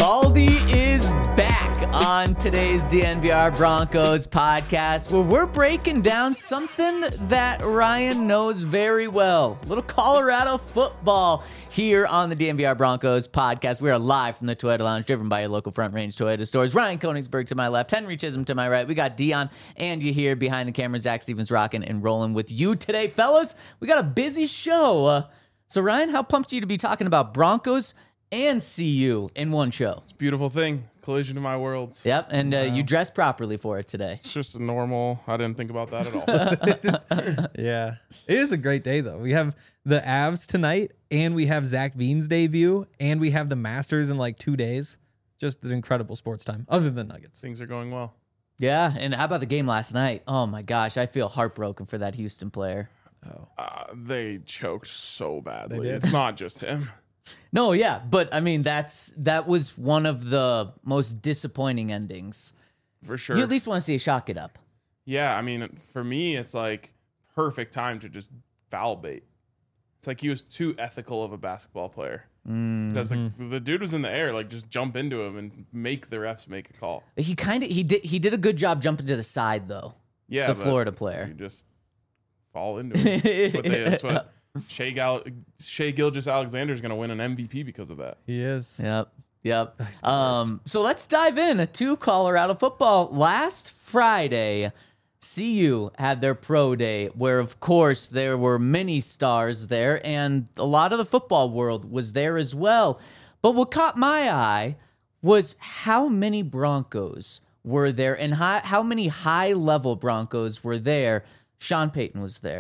Baldy is back on today's DNVR Broncos podcast, where we're breaking down something that Ryan knows very well. A little Colorado football here on the DNVR Broncos podcast. We are live from the Toyota Lounge, driven by your local Front Range Toyota stores. Ryan Koenigsberg to my left, Henry Chisholm to my right. We got Dion and you here behind the camera. Zach Stevens rocking and rolling with you today. Fellas, we got a busy show. So Ryan, how pumped are you to be talking about Broncos and CU in one show? It's a beautiful thing. Collision of my worlds. Yep, and you dressed properly for it today. It's just normal. I didn't think about that at all. Yeah. It is a great day, though. We have the Avs tonight, and we have Zach Bean's debut, and we have the Masters in like 2 days. Just an incredible sports time, other than Nuggets. Things are going well. Yeah, and how about the game last night? Oh my gosh, I feel heartbroken for that Houston player. They choked so badly. They did. It's not just him. No, yeah, but I mean that was one of the most disappointing endings. For sure. You at least want to see a shot get up. Yeah, I mean, for me, it's like perfect time to just foul bait. It's like he was too ethical of a basketball player. Because the dude was in the air, like just jump into him and make the refs make a call. He did a good job jumping to the side though. Yeah, the but Florida player. You just fall into him. That's what Shea Gilgeous-Alexander is going to win an MVP because of that. He is. Yep. So let's dive in to Colorado football. Last Friday, CU had their pro day, where of course there were many stars there, and a lot of the football world was there as well. But what caught my eye was how many Broncos were there, and how many high-level Broncos were there. Sean Payton was there.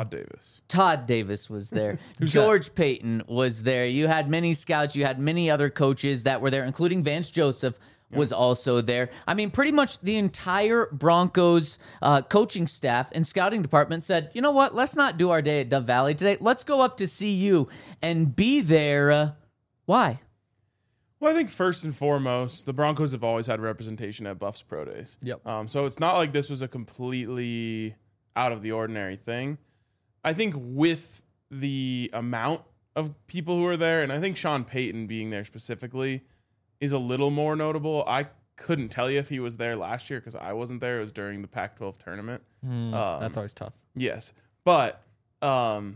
Todd Davis was there. George Payton was there. You had many scouts. You had many other coaches that were there, including Vance Joseph was also there. I mean, pretty much the entire Broncos coaching staff and scouting department said, you know what, let's not do our day at Dove Valley today. Let's go up to CU and be there. Why? Well, I think first and foremost, the Broncos have always had representation at Buffs Pro Days. Yep. So it's not like this was a completely out of the ordinary thing. I think with the amount of people who are there, and I think Sean Payton being there specifically is a little more notable. I couldn't tell you if he was there last year because I wasn't there. It was during the Pac-12 tournament. That's always tough. Yes. But to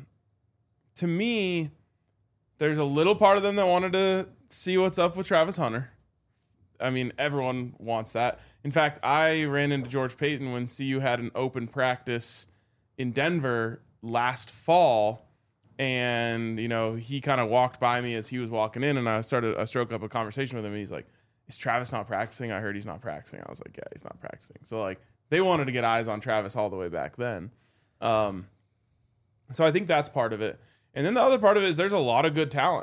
me, there's a little part of them that wanted to see what's up with Travis Hunter. I mean, everyone wants that. In fact, I ran into George Payton when CU had an open practice in Denver last fall, and he kind of walked by me as he was walking in, and I struck up a conversation with him, and he's like, is Travis not practicing? I heard he's not practicing. I was like, yeah, he's not practicing. So like they wanted to get eyes on Travis all the way back then. So I think that's part of it. And then the other part of it is there's a lot of good talent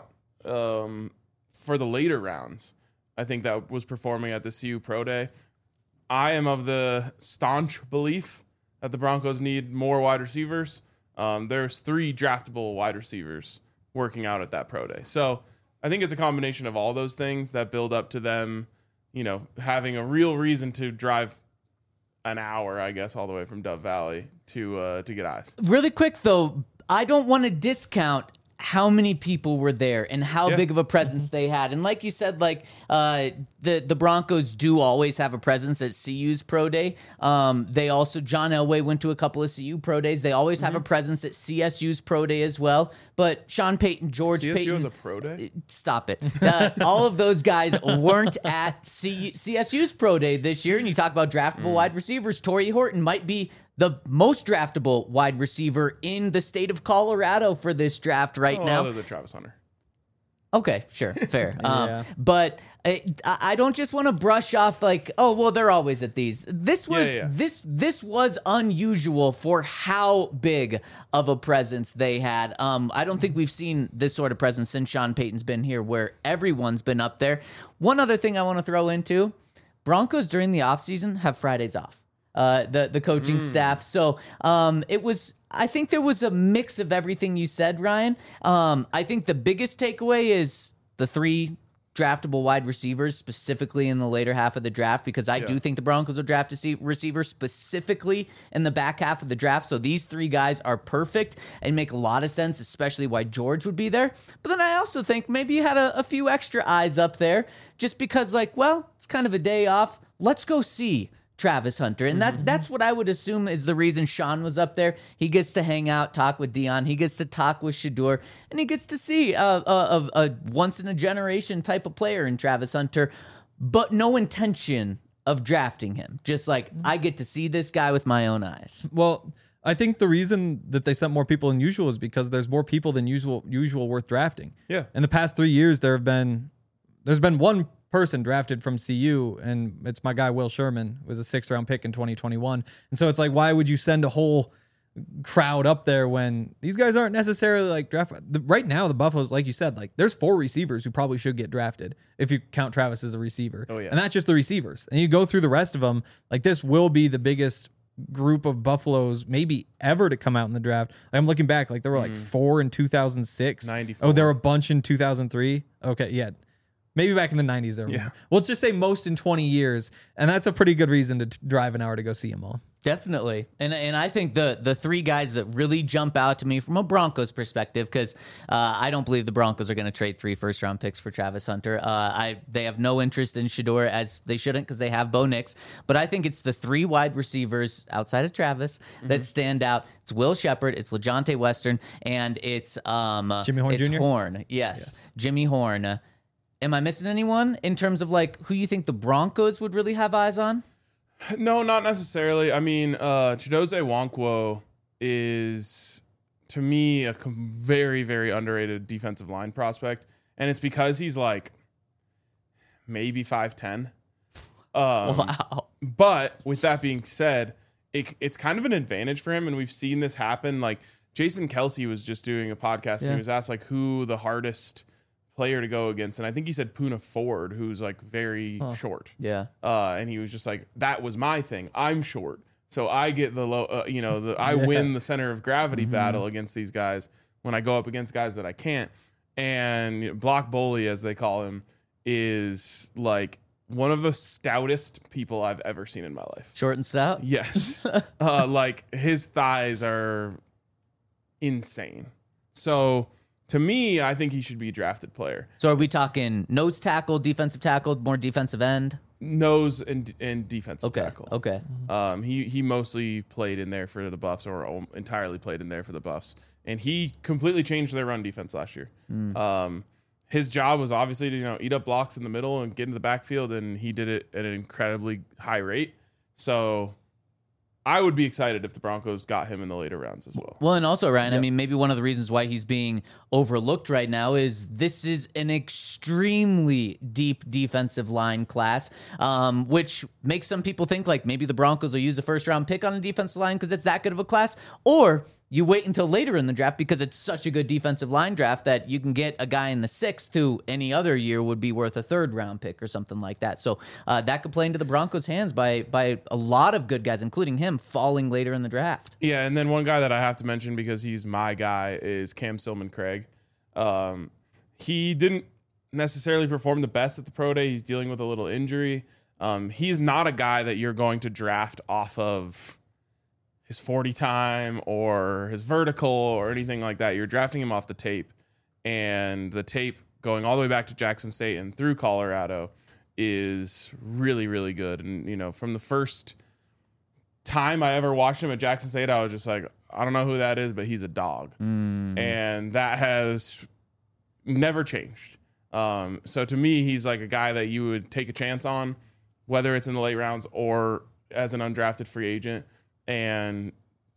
for the later rounds. I think that was performing at the CU Pro Day. I am of the staunch belief that the Broncos need more wide receivers. There's 3 draftable wide receivers working out at that Pro Day. So I think it's a combination of all those things that build up to them, having a real reason to drive an hour, I guess, all the way from Dove Valley to get eyes. Really quick, though, I don't want to discount how many people were there and how big of a presence they had. And like you said, like the Broncos do always have a presence at CU's Pro Day. They also, John Elway went to a couple of CU Pro Days. They always have a presence at CSU's Pro Day as well. But Sean Payton, George CSU Payton. has a Pro Day? Stop it. All of those guys weren't at CSU's Pro Day this year. And you talk about draftable wide receivers. Torrey Horton might be the most draftable wide receiver in the state of Colorado for this draft right now. Other than Travis Hunter. Okay, sure, fair. Yeah. But I don't just want to brush off like, oh, well, they're always at these. This was this was unusual for how big of a presence they had. I don't think we've seen this sort of presence since Sean Payton's been here, where everyone's been up there. One other thing I want to throw into, Broncos during the offseason have Fridays off. The coaching staff. So I think there was a mix of everything you said, Ryan. I think the biggest takeaway is the 3 draftable wide receivers specifically in the later half of the draft, because I do think the Broncos will draft a receiver specifically in the back half of the draft. So these three guys are perfect and make a lot of sense, especially why George would be there. But then I also think maybe you had a few extra eyes up there just because, like, well, it's kind of a day off. Let's go see Travis Hunter. And that's what I would assume is the reason Sean was up there. He gets to hang out, talk with Dion. He gets to talk with Shedeur, and he gets to see a once-in-a-generation type of player in Travis Hunter, but no intention of drafting him. Just like, I get to see this guy with my own eyes. Well, I think the reason that they sent more people than usual is because there's more people than usual worth drafting. Yeah. In the past 3 years, there's been one person drafted from CU, and it's my guy Will Sherman, was a 6th round pick in 2021. And so it's like, why would you send a whole crowd up there when these guys aren't necessarily like draft? Right now, the Buffaloes, like you said, like there's 4 receivers who probably should get drafted if you count Travis as a receiver. Oh, yeah. And that's just the receivers. And you go through the rest of them, like this will be the biggest group of Buffaloes maybe ever to come out in the draft. Like, I'm looking back, like there were like 4 in 2006. 94. Oh, there were a bunch in 2003. Okay, yeah. Maybe back in the 90s there were. Yeah. Well, let's just say most in 20 years. And that's a pretty good reason to drive an hour to go see them all. Definitely. And I think the three guys that really jump out to me from a Broncos perspective, because I don't believe the Broncos are going to trade 3 first-round picks for Travis Hunter. They have no interest in Shedeur, as they shouldn't, because they have Bo Nix. But I think it's the 3 wide receivers outside of Travis that stand out. It's Will Shepard, it's LeJohntay Western, and it's Jimmy Horn it's Jr.? Horn. Yes, Jimmy Horn. Am I missing anyone in terms of like who you think the Broncos would really have eyes on? No, not necessarily. I mean, Chidozie Nwankwo is, to me, a very, very underrated defensive line prospect. And it's because he's like maybe 5'10". Wow. But with that being said, it's kind of an advantage for him. And we've seen this happen. Like Jason Kelsey was just doing a podcast. And he was asked like who the hardest player to go against, and I think he said Poona Ford, who's like very short. Yeah. And he was just like, that was my thing. I'm short, so I get the low. I win the center of gravity battle against these guys when I go up against guys that I can't. And Block Bully, as they call him, is like one of the stoutest people I've ever seen in my life. Short and stout? Yes. Like his thighs are insane. So to me, I think he should be a drafted player. So are we talking nose tackle, defensive tackle, more defensive end? Nose and defensive tackle. Okay. He mostly played in there for the Buffs, or entirely played in there for the Buffs, and he completely changed their run defense last year. His job was obviously to eat up blocks in the middle and get into the backfield, and he did it at an incredibly high rate. So I would be excited if the Broncos got him in the later rounds as well. Well, and also, Ryan, I mean, maybe one of the reasons why he's being overlooked right now is this is an extremely deep defensive line class, which makes some people think like maybe the Broncos will use a first-round pick on a defensive line because it's that good of a class, or you wait until later in the draft because it's such a good defensive line draft that you can get a guy in the 6th who any other year would be worth a 3rd-round pick or something like that. So that could play into the Broncos' hands by a lot of good guys, including him, falling later in the draft. Yeah, and then one guy that I have to mention because he's my guy is Cam Silman-Craig. He didn't necessarily perform the best at the pro day. He's dealing with a little injury. He's not a guy that you're going to draft off of his 40 time or his vertical or anything like that. You're drafting him off the tape, and the tape going all the way back to Jackson State and through Colorado is really, really good. And, from the first time I ever watched him at Jackson State, I was just like, I don't know who that is, but he's a dog. And that has never changed. So to me, he's like a guy that you would take a chance on, whether it's in the late rounds or as an undrafted free agent, and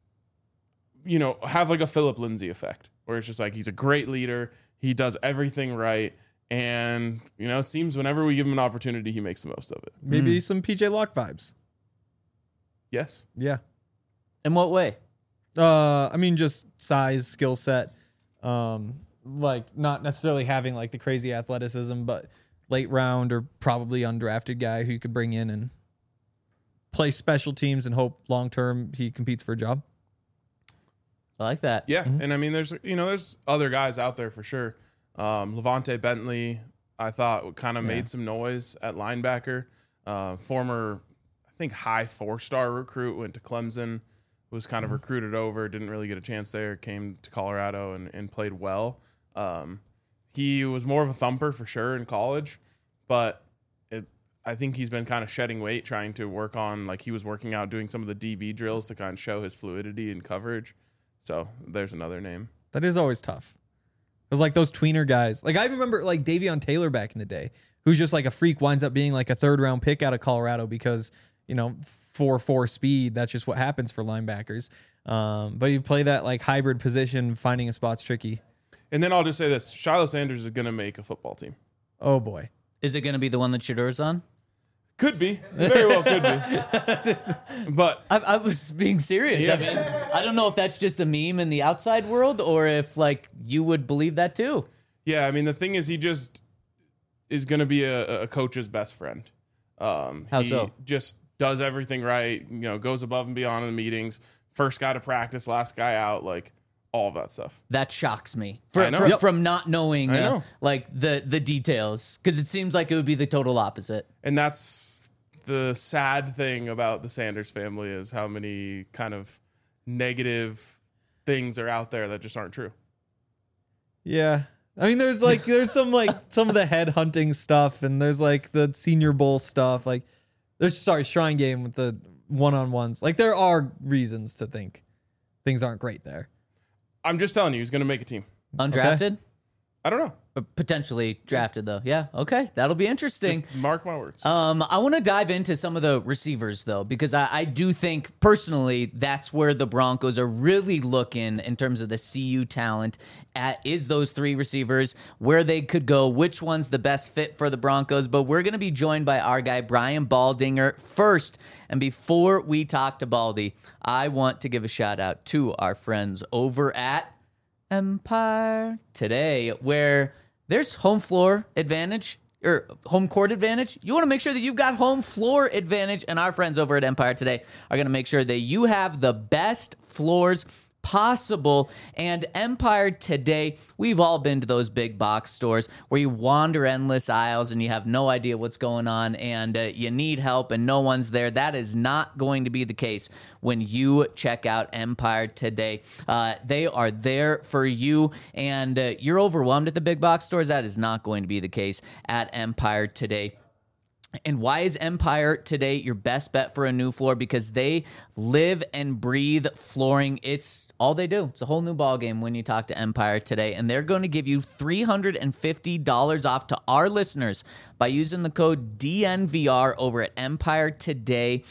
have like a Phillip Lindsay effect where it's just like he's a great leader, he does everything right, and it seems whenever we give him an opportunity, he makes the most of it. Maybe some PJ Locke vibes. Yes. Yeah. In what way? I mean, just size, skill set, like not necessarily having like the crazy athleticism, but late round or probably undrafted guy who you could bring in and play special teams and hope long term he competes for a job. I like that. Yeah, and I mean, there's other guys out there for sure. Levante Bentley, I thought kind of made some noise at linebacker. Former, I think, high 4-star recruit, went to Clemson, was kind of recruited over, didn't really get a chance there, came to Colorado and played well. He was more of a thumper for sure in college, but I think he's been kind of shedding weight, trying to work on, like he was working out, doing some of the DB drills to kind of show his fluidity and coverage. So there's another name. That is always tough. It was like those tweener guys. Like I remember like Davion Taylor back in the day, who's just like a freak, winds up being like a 3rd-round pick out of Colorado because, 4.4 speed. That's just what happens for linebackers. But you play that like hybrid position, finding a spot's tricky. And then I'll just say this. Shiloh Sanders is going to make a football team. Oh, boy. Is it going to be the one that Shadur's on? Could be. Very well could be. But I was being serious. Yeah. I mean, I don't know if that's just a meme in the outside world or if, like, you would believe that too. yeah, I mean, the thing is he just is going to be a coach's best friend. How he so? just does everything right, goes above and beyond in the meetings. First guy to practice, last guy out, like all of that stuff. That shocks me I know. from not knowing I know. like the details, because it seems like it would be the total opposite. And that's the sad thing about the Sanders family, is how many kind of negative things are out there that just aren't true. Yeah. I mean, there's some some of the head hunting stuff, and there's like the Senior Bowl stuff. Like, Shrine Game with the one-on-ones. Like, there are reasons to think things aren't great there. I'm just telling you, he's going to make a team. Undrafted? I don't know. Or potentially drafted, though. Yeah, okay. That'll be interesting. Just mark my words. I want to dive into some of the receivers, though, because I do think, personally, that's where the Broncos are really looking in terms of the CU talent is those 3 receivers, where they could go, which one's the best fit for the Broncos. But we're going to be joined by our guy, Brian Baldinger, first. And before we talk to Baldy, I want to give a shout out to our friends over at Empire Today, where there's home floor advantage or home court advantage. You want to make sure that you've got home floor advantage, and our friends over at Empire Today are going to make sure that you have the best floors possible. And Empire Today, we've all been to those big box stores where you wander endless aisles and you have no idea what's going on, and you need help and no one's there. That is not going to be the case when you check out Empire Today. They are there for you, and you're overwhelmed at the big box stores. That is not going to be the case at Empire Today. And why is Empire Today your best bet for a new floor? Because they live and breathe flooring. It's all they do. It's a whole new ballgame when you talk to Empire Today. And they're going to give you $350 off to our listeners by using the code DNVR over at Empire Today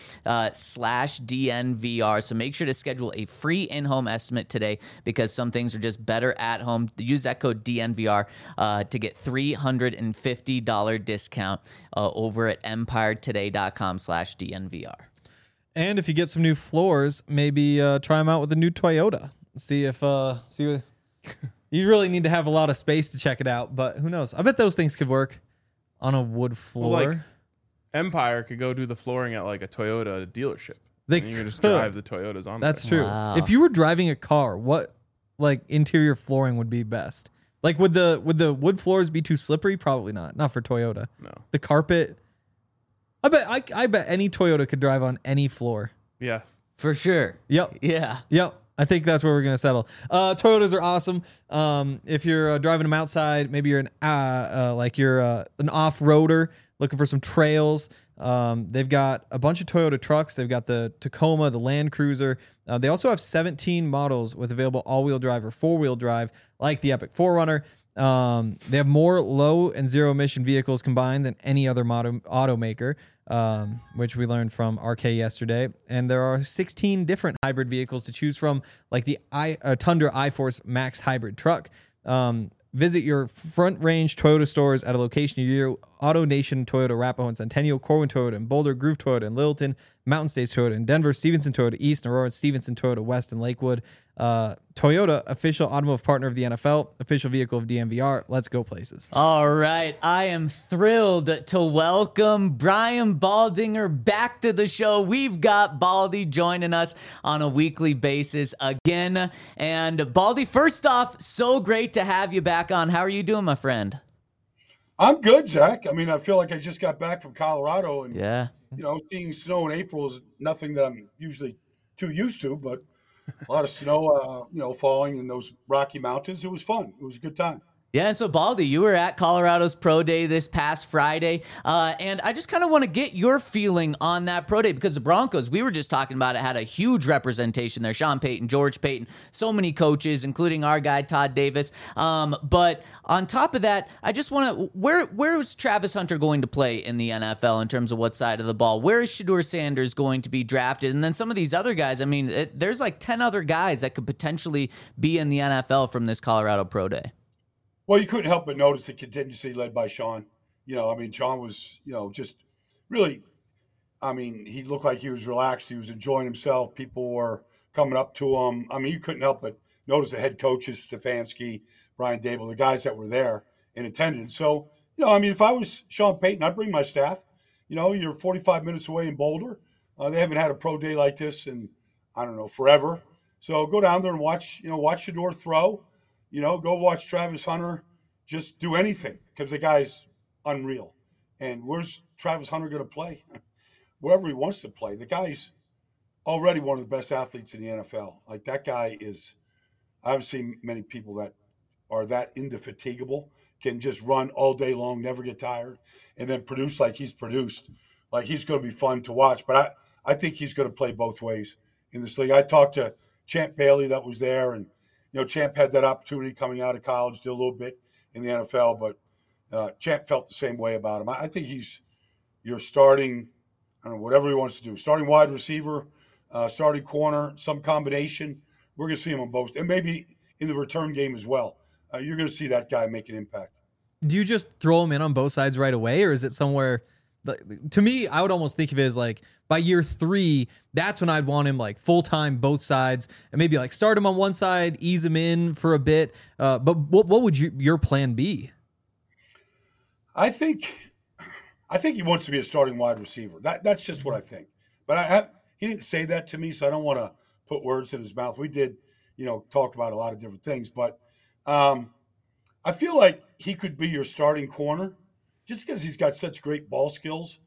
/DNVR. So make sure to schedule a free in-home estimate today, because some things are just better at home. Use that code DNVR to get $350 discount over at empiretoday.com /DNVR. And if you get some new floors, maybe try them out with a new Toyota. See if you really need to have a lot of space to check it out, but who knows? I bet those things could work on a wood floor. Well, like, Empire could go do the flooring at like a Toyota dealership. They and you can just could. drive the Toyotas on. That's there. true. Wow. If you were driving a car, what like interior flooring would be best? Like, would the wood floors be too slippery? Probably not. Not for Toyota. No. The carpet. I bet any Toyota could drive on any floor. Yeah. For sure. Yep. Yeah. Yep. I think that's where we're gonna settle. Toyotas are awesome. If you're driving them outside, maybe you're an off-roader looking for some trails. They've got a bunch of Toyota trucks. They've got the Tacoma, the Land Cruiser. They also have 17 models with available all-wheel drive or four-wheel drive, like the Epic 4Runner. They have more low and zero emission vehicles combined than any other automaker, which we learned from RK yesterday. And there are 16 different hybrid vehicles to choose from, like the Tundra iForce Max hybrid truck. Visit your Front Range Toyota stores at a location near you. Auto Nation Toyota, Arapahoe and Centennial, Corwin Toyota and Boulder, Groove Toyota and Littleton, Mountain States Toyota in Denver, Stevenson Toyota East, and Aurora, Stevenson Toyota West and Lakewood. Toyota, official automotive partner of the NFL, official vehicle of DNVR. Let's go places. All right. I am thrilled to welcome Brian Baldinger back to the show. We've got Baldy joining us on a weekly basis again. And Baldy, first off, so great to have you back on. How are you doing, my friend? I'm good, Zach. I mean, I feel like I just got back from Colorado, and Yeah. seeing snow in April is nothing that I'm usually too used to. But a lot of snow, falling in those Rocky Mountains. It was fun. It was a good time. Yeah, and so Baldy, you were at Colorado's Pro Day this past Friday, and I just kind of want to get your feeling on that Pro Day because the Broncos, we were just talking about it, had a huge representation there. Sean Payton, George Payton, so many coaches, including our guy Todd Davis. But on top of that, I just want to, where is Travis Hunter going to play in the NFL in terms of what side of the ball? Where is Shedeur Sanders going to be drafted? And then some of these other guys, I mean, there's like 10 other guys that could potentially be in the NFL from this Colorado Pro Day. Well, you couldn't help but notice the contingency led by Sean. Sean was, just really, he looked like he was relaxed. He was enjoying himself. People were coming up to him. I mean, you couldn't help but notice the head coaches, Stefanski, Brian Dable, the guys that were there in attendance. So, if I was Sean Payton, I'd bring my staff. You're 45 minutes away in Boulder. They haven't had a pro day like this in, I don't know, forever. So go down there and watch Shedeur throw. Go watch Travis Hunter just do anything because the guy's unreal. And where's Travis Hunter going to play? Wherever he wants to play. The guy's already one of the best athletes in the NFL. Like that guy is, I haven't seen many people that are that indefatigable, can just run all day long, never get tired, and then produce like he's produced. Like he's going to be fun to watch. But I think he's going to play both ways in this league. I talked to Champ Bailey that was there, and Champ had that opportunity coming out of college, did a little bit in the NFL, but Champ felt the same way about him. I think he's your starting, I don't know, whatever he wants to do, starting wide receiver, starting corner, some combination. We're going to see him on both, and maybe in the return game as well. You're going to see that guy make an impact. Do you just throw him in on both sides right away, or is it somewhere? To me, I would almost think of it as like by year 3, that's when I'd want him like full time, both sides, and maybe like start him on one side, ease him in for a bit. But what would your plan be? I think he wants to be a starting wide receiver. That's just what I think. But he didn't say that to me, so I don't want to put words in his mouth. We did, talk about a lot of different things, but I feel like he could be your starting corner. Just because he's got such great ball skills,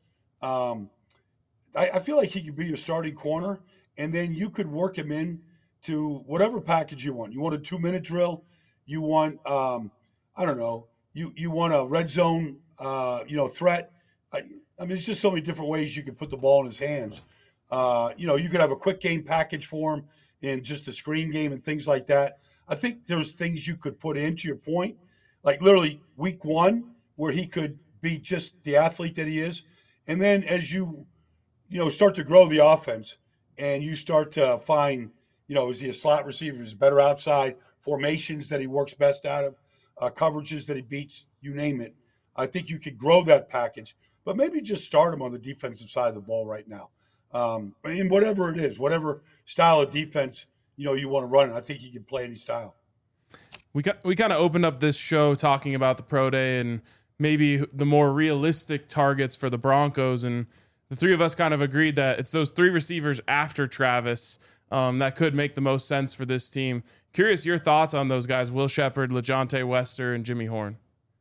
I feel like he could be your starting corner, and then you could work him in to whatever package you want. You want a 2-minute drill, you want, I don't know, you want a red zone, threat. I mean, there's just so many different ways you could put the ball in his hands. You could have a quick game package for him in just a screen game and things like that. I think there's things you could put into your point, like literally week 1, where he could be just the athlete that he is. And then as you start to grow the offense and you start to find, is he a slot receiver? Is he better outside? Formations that he works best out of, coverages that he beats, you name it. I think you could grow that package, but maybe just start him on the defensive side of the ball right now. In whatever it is, whatever style of defense, you want to run, I think he can play any style. We kind of opened up this show talking about the Pro Day and maybe the more realistic targets for the Broncos. And the three of us kind of agreed that it's those 3 receivers after Travis that could make the most sense for this team. Curious your thoughts on those guys, Will Shepherd, LeJontay Wester, and Jimmy Horn.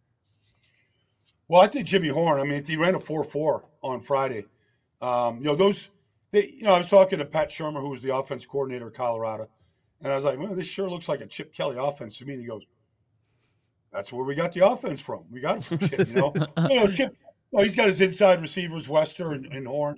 Well, I think Jimmy Horn, if he ran a 4.4 on Friday, I was talking to Pat Shermer, who was the offense coordinator of Colorado, and I was like, well, this sure looks like a Chip Kelly offense to me. And he goes, that's where we got the offense from. We got it from Chip, Chip, he's got his inside receivers, Wester and Horn.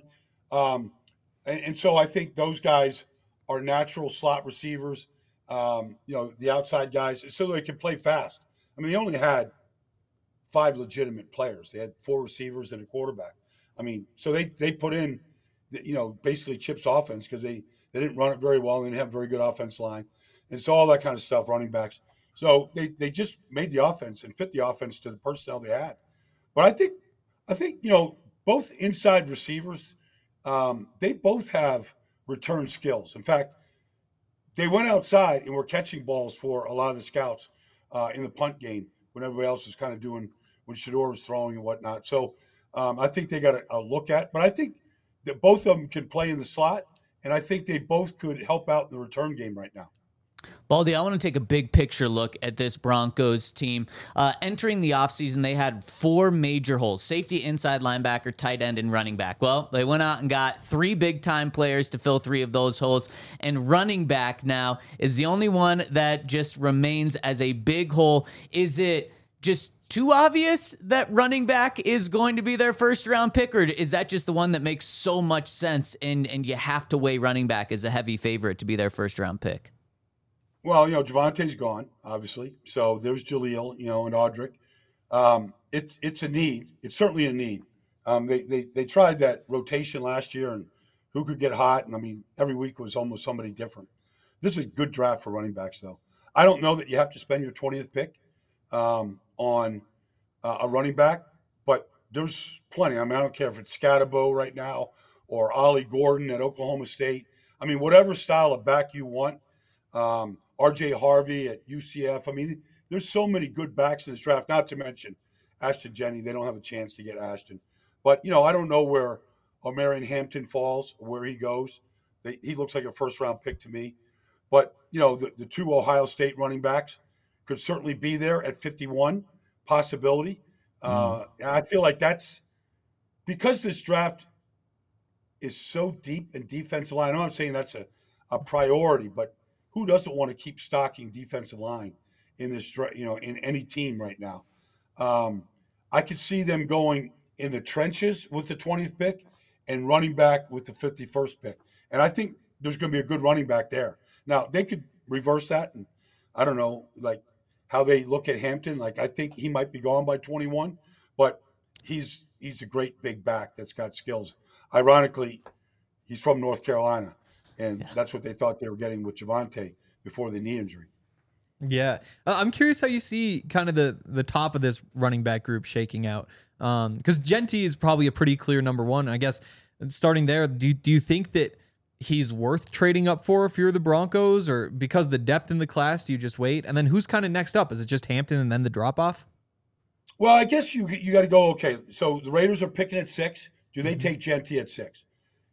And so I think those guys are natural slot receivers, the outside guys, so they can play fast. They only had 5 legitimate players. They had 4 receivers and a quarterback. So they put in, basically Chip's offense because they didn't run it very well. They didn't have a very good offense line. And so all that kind of stuff, running backs. So they just made the offense and fit the offense to the personnel they had. But I think both inside receivers, they both have return skills. In fact, they went outside and were catching balls for a lot of the scouts in the punt game when everybody else was kind of doing when Shedeur was throwing and whatnot. So I think they got a look at. But I think that both of them can play in the slot, and I think they both could help out in the return game right now. Baldy, I want to take a big picture look at this Broncos team. Entering the offseason, they had 4 major holes: safety, inside linebacker, tight end, and running back. Well, they went out and got 3 big-time players to fill 3 of those holes, and running back now is the only one that just remains as a big hole. Is it just too obvious that running back is going to be their first-round pick, or is that just the one that makes so much sense, and you have to weigh running back as a heavy favorite to be their first-round pick? Well, Javante's gone, obviously. So there's Jaleel, and Audric. It's a need. It's certainly a need. They tried that rotation last year and who could get hot. And I mean, every week was almost somebody different. This is a good draft for running backs, though. I don't know that you have to spend your 20th pick on a running back, but there's plenty. I mean, I don't care if it's Scatabo right now or Ollie Gordon at Oklahoma State. I mean, whatever style of back you want. RJ Harvey at UCF. I mean, there's so many good backs in this draft, not to mention Ashton Jenney. They don't have a chance to get Ashton. But, I don't know where Omarion Hampton falls, where he goes. He looks like a first-round pick to me. But, the 2 Ohio State running backs could certainly be there at 51, possibility. I feel like that's – because this draft is so deep in defensive line, I'm not saying that's a priority, but – who doesn't want to keep stocking defensive line in this, in any team right now? I could see them going in the trenches with the 20th pick and running back with the 51st pick. And I think there's going to be a good running back there. Now, they could reverse that. And I don't know, like how they look at Hampton. Like, I think he might be gone by 21, but he's a great big back that's got skills. Ironically, he's from North Carolina. And that's what they thought they were getting with Javonte before the knee injury. Yeah. I'm curious how you see kind of the top of this running back group shaking out. Because Genty is probably a pretty clear number 1. I guess starting there, do you think that he's worth trading up for if you're the Broncos, or because of the depth in the class, do you just wait? And then who's kind of next up? Is it just Hampton and then the drop-off? Well, I guess you got to go, okay, so the Raiders are picking at 6. Do they take Genty at 6?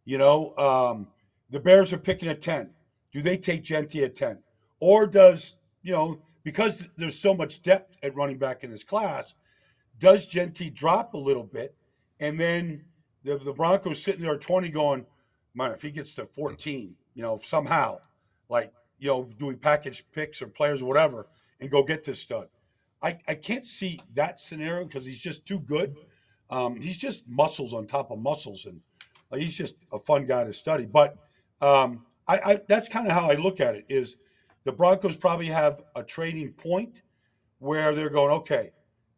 The Bears are picking at 10. Do they take Genty at 10? Or does, because there's so much depth at running back in this class, does Genty drop a little bit? And then the Broncos sitting there at 20 going, man, if he gets to 14, somehow, like, doing package picks or players or whatever, and go get this stud. I can't see that scenario because he's just too good. He's just muscles on top of muscles, and he's just a fun guy to study. But that's kind of how I look at it, is the Broncos probably have a trading point where they're going, okay,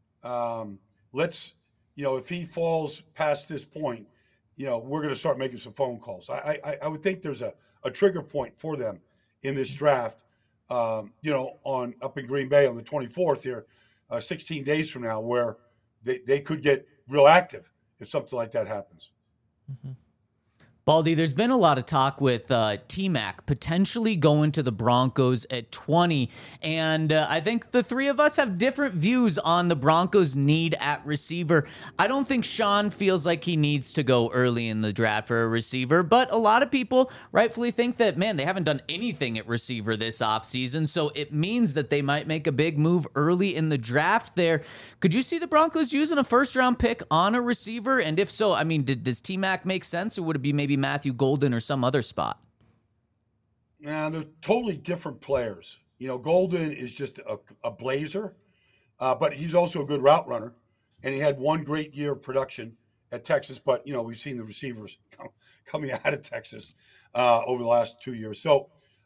let's, if he falls past this point, we're going to start making some phone calls. I would think there's a trigger point for them in this draft, on up in Green Bay on the 24th here, 16 days from now, where they could get real active if something like that happens. Mm-hmm. Baldy, there's been a lot of talk with T-Mac potentially going to the Broncos at 20, and I think the 3 of us have different views on the Broncos' need at receiver. I don't think Sean feels like he needs to go early in the draft for a receiver, but a lot of people rightfully think that, man, they haven't done anything at receiver this offseason, so it means that they might make a big move early in the draft there. Could you see the Broncos using a first-round pick on a receiver? And if so, I mean, does T-Mac make sense, or would it be maybe Matthew Golden or some other spot? Now, they're totally different players. Golden is just a blazer, but he's also a good route runner, and he had one great year of production at Texas. But, we've seen the receivers coming out of Texas over the last 2 years. So,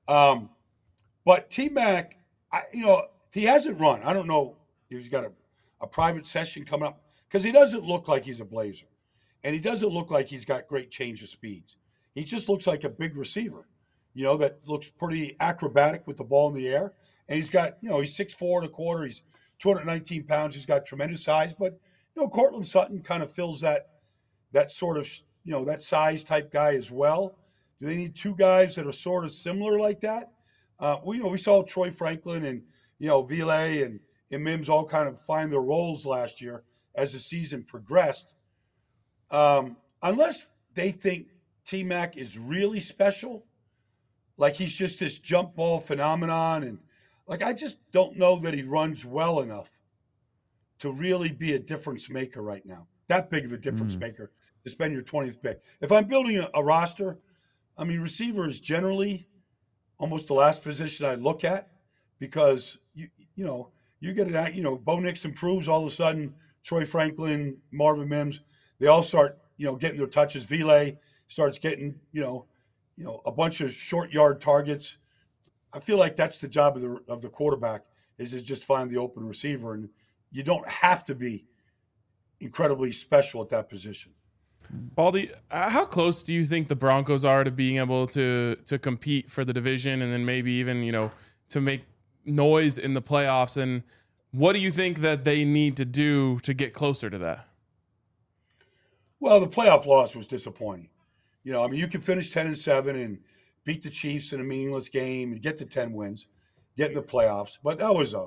but T-Mac, he hasn't run. I don't know if he's got a private session coming up, because he doesn't look like he's a blazer. And he doesn't look like he's got great change of speeds. He just looks like a big receiver, that looks pretty acrobatic with the ball in the air. And he's got, he's 6'4" and a quarter. He's 219 pounds. He's got tremendous size. But, Cortland Sutton kind of fills that sort of, that size type guy as well. Do they need 2 guys that are sort of similar like that? We saw Troy Franklin and, Ville and Mims all kind of find their roles last year as the season progressed. Unless they think T-Mac is really special, like he's just this jump ball phenomenon. And like, I just don't know that he runs well enough to really be a difference maker right now. That big of a difference maker to spend your 20th pick. If I'm building a roster, I mean, receiver is generally almost the last position I look at because, you know, you get it, you know, Bo Nix improves, all of a sudden, Troy Franklin, Marvin Mims, they all start, you know, getting their touches. Vile starts getting, you know, a bunch of short yard targets. I feel like that's the job of the quarterback is to just find the open receiver, and you don't have to be incredibly special at that position. Baldy, how close do you think the Broncos are to being able to compete for the division and then maybe even, you know, to make noise in the playoffs? And what do you think that they need to do to get closer to that? Well, the playoff loss was disappointing. You know, I mean, you can finish 10-7 and beat the Chiefs in a meaningless game and get to 10 wins, get in the playoffs. But that was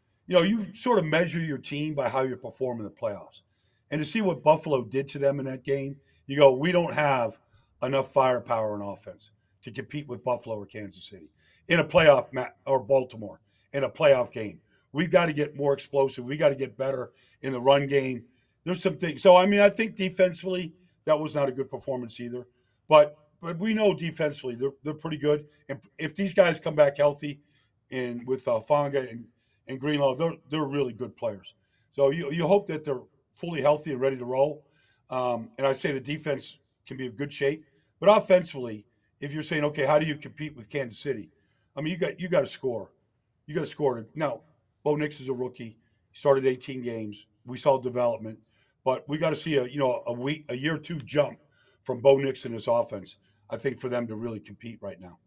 you sort of measure your team by how you perform in the playoffs. And to see what Buffalo did to them in that game, you go, we don't have enough firepower in offense to compete with Buffalo or Kansas City in a playoff or Baltimore in a playoff game. We've got to get more explosive. We got to get better in the run game. There's some things. So, I mean, I think defensively that was not a good performance either. But we know defensively they're pretty good. And if these guys come back healthy and with Fonga and Greenlaw, they're really good players. So you hope that they're fully healthy and ready to roll. And I'd say the defense can be in good shape. But offensively, if you're saying, okay, how do you compete with Kansas City? I mean, you got to score. You got to score. Now, Bo Nix is a rookie. He started 18 games. We saw development. But we got to see a year or two jump from Bo Nix and his offense, I think, for them to really compete right now.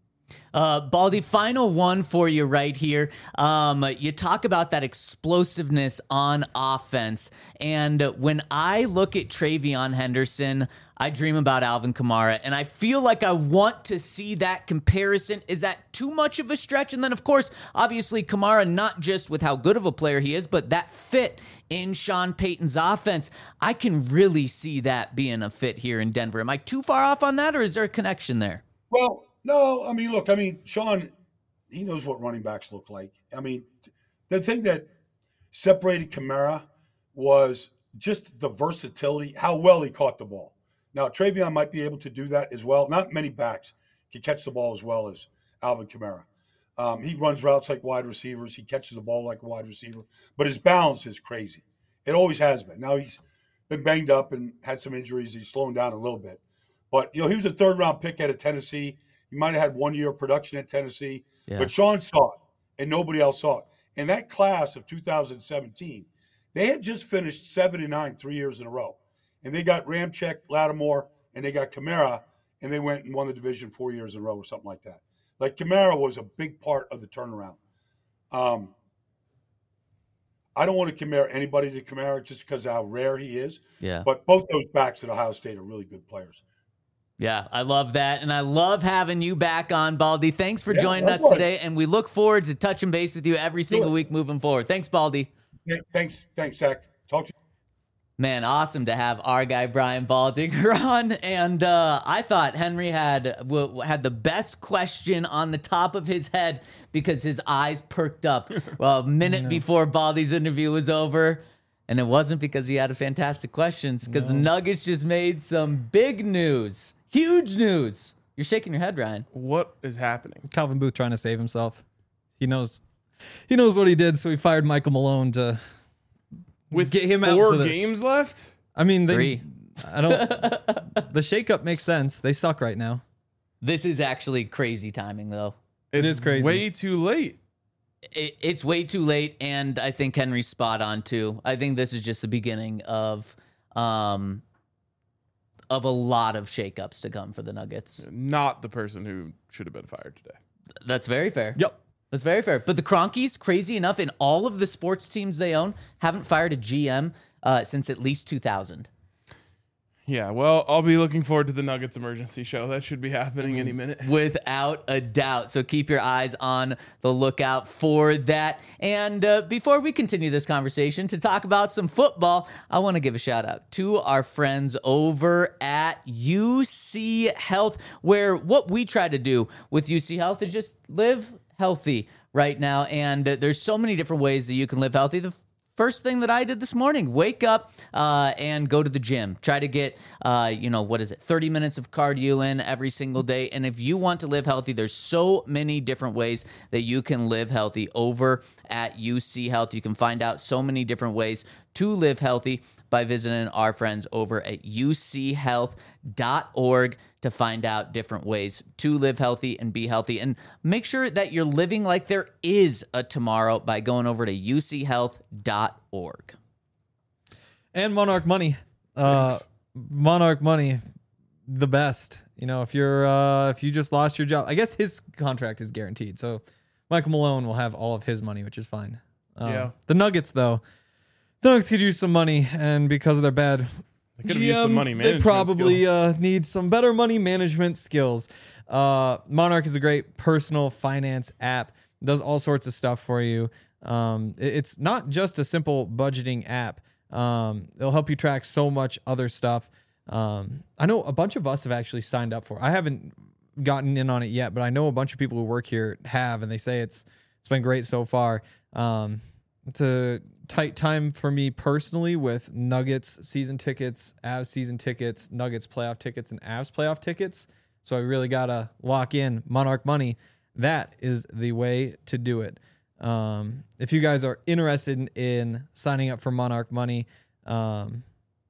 Baldy, final one for you right here. You talk about that explosiveness on offense. And when I look at TreVeyon Henderson, I dream about Alvin Kamara. And I feel like I want to see that comparison. Is that too much of a stretch? And then, of course, obviously, Kamara, not just with how good of a player he is, but that fit in Sean Payton's offense. I can really see that being a fit here in Denver. Am I too far off on that, or is there a connection there? Well, no, I mean, look, Sean, he knows what running backs look like. I mean, the thing that separated Kamara was just the versatility, how well he caught the ball. Now, TreVeyon might be able to do that as well. Not many backs can catch the ball as well as Alvin Kamara. He runs routes like wide receivers. He catches the ball like a wide receiver. But his balance is crazy. It always has been. Now he's been banged up and had some injuries. He's slowing down a little bit. But, he was a third-round pick out of Tennessee. He might have had 1 year of production at Tennessee. Yeah. But Sean saw it, and nobody else saw it. In that class of 2017, they had just finished 7-9 3 years in a row. And they got Ramczyk, Lattimore, and they got Kamara, and they went and won the division 4 years in a row or something like that. Like, Kamara was a big part of the turnaround. I don't want to compare anybody to Kamara just because of how rare he is. Yeah. But both those backs at Ohio State are really good players. Yeah, I love that, and I love having you back on, Baldy. Thanks for joining us today, and we look forward to touching base with you every single week moving forward. Thanks, Baldy. Yeah, thanks, Zach. Talk to you. Man, awesome to have our guy Brian Baldinger on, and I thought Henry had the best question on the top of his head because his eyes perked up a minute before Baldy's interview was over. And it wasn't because he had a fantastic questions, because the Nuggets just made some big news. Huge news. You're shaking your head, Ryan. What is happening? Calvin Booth trying to save himself. He knows what he did, so he fired Michael Malone to get him out. 4 games left? I mean, 3. The shakeup makes sense. They suck right now. This is actually crazy timing, though. It is crazy. Way too late. It's way too late, and I think Henry's spot on, too. I think this is just the beginning of a lot of shakeups to come for the Nuggets. Not the person who should have been fired today. That's very fair. Yep. That's very fair. But the Kroenkes, crazy enough, in all of the sports teams they own, haven't fired a GM since at least 2000. Yeah, well, I'll be looking forward to the Nuggets emergency show. That should be happening any minute. Without a doubt. So keep your eyes on the lookout for that. And before we continue this conversation to talk about some football, I want to give a shout out to our friends over at UC Health, where what we try to do with UC Health is just live healthy right now. And there's so many different ways that you can live healthy. The first thing that I did this morning, wake up and go to the gym. Try to get, 30 minutes of cardio in every single day. And if you want to live healthy, there's so many different ways that you can live healthy over at UC Health. You can find out so many different ways to live healthy by visiting our friends over at uchealth.org to find out different ways to live healthy and be healthy. And make sure that you're living like there is a tomorrow by going over to uchealth.org. And Monarch Money. Monarch Money, the best. You know, if you just lost your job, I guess his contract is guaranteed. So Michael Malone will have all of his money, which is fine. Yeah. The Nuggets, though, the Nuggets could use some money, and because of their bad They could have used some money they management probably skills. Need some better money management skills. Monarch is a great personal finance app. It does all sorts of stuff for you. It's not just a simple budgeting app. It'll help you track so much other stuff. I know a bunch of us have actually signed up for it. I haven't gotten in on it yet, but I know a bunch of people who work here have, and they say it's been great so far. It's a tight time for me personally with Nuggets season tickets, Avs season tickets, Nuggets playoff tickets, and Avs playoff tickets. So I really got to lock in Monarch Money. That is the way to do it. If you guys are interested in signing up for Monarch Money, can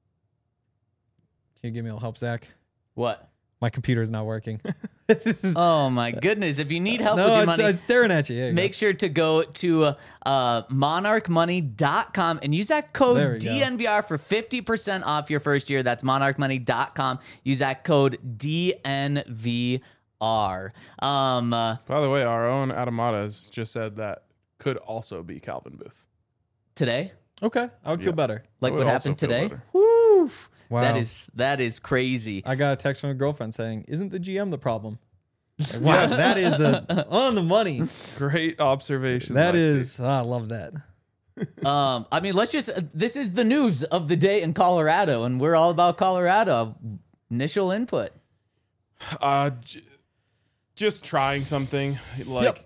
you give me a little help, Zach? What? My computer is not working. Oh my goodness. If you need help with No, your it's money, staring at you. There you make sure to go to monarchmoney.com and use that There code we go. DNVR for 50% off your first year. That's monarchmoney.com. Use that code DNVR. By the way, our own Adamada has just said that could also be Calvin Booth. Today, go. Okay, I would feel better. like I what would also happened feel today. better. Woo! Wow. That is crazy. I got a text from a girlfriend saying, "Isn't the GM the problem?" Like, wow, that is on the money. Great observation. That Lexi. is, I love that. I mean, this is the news of the day in Colorado, and we're all about Colorado. Initial input. Just trying something like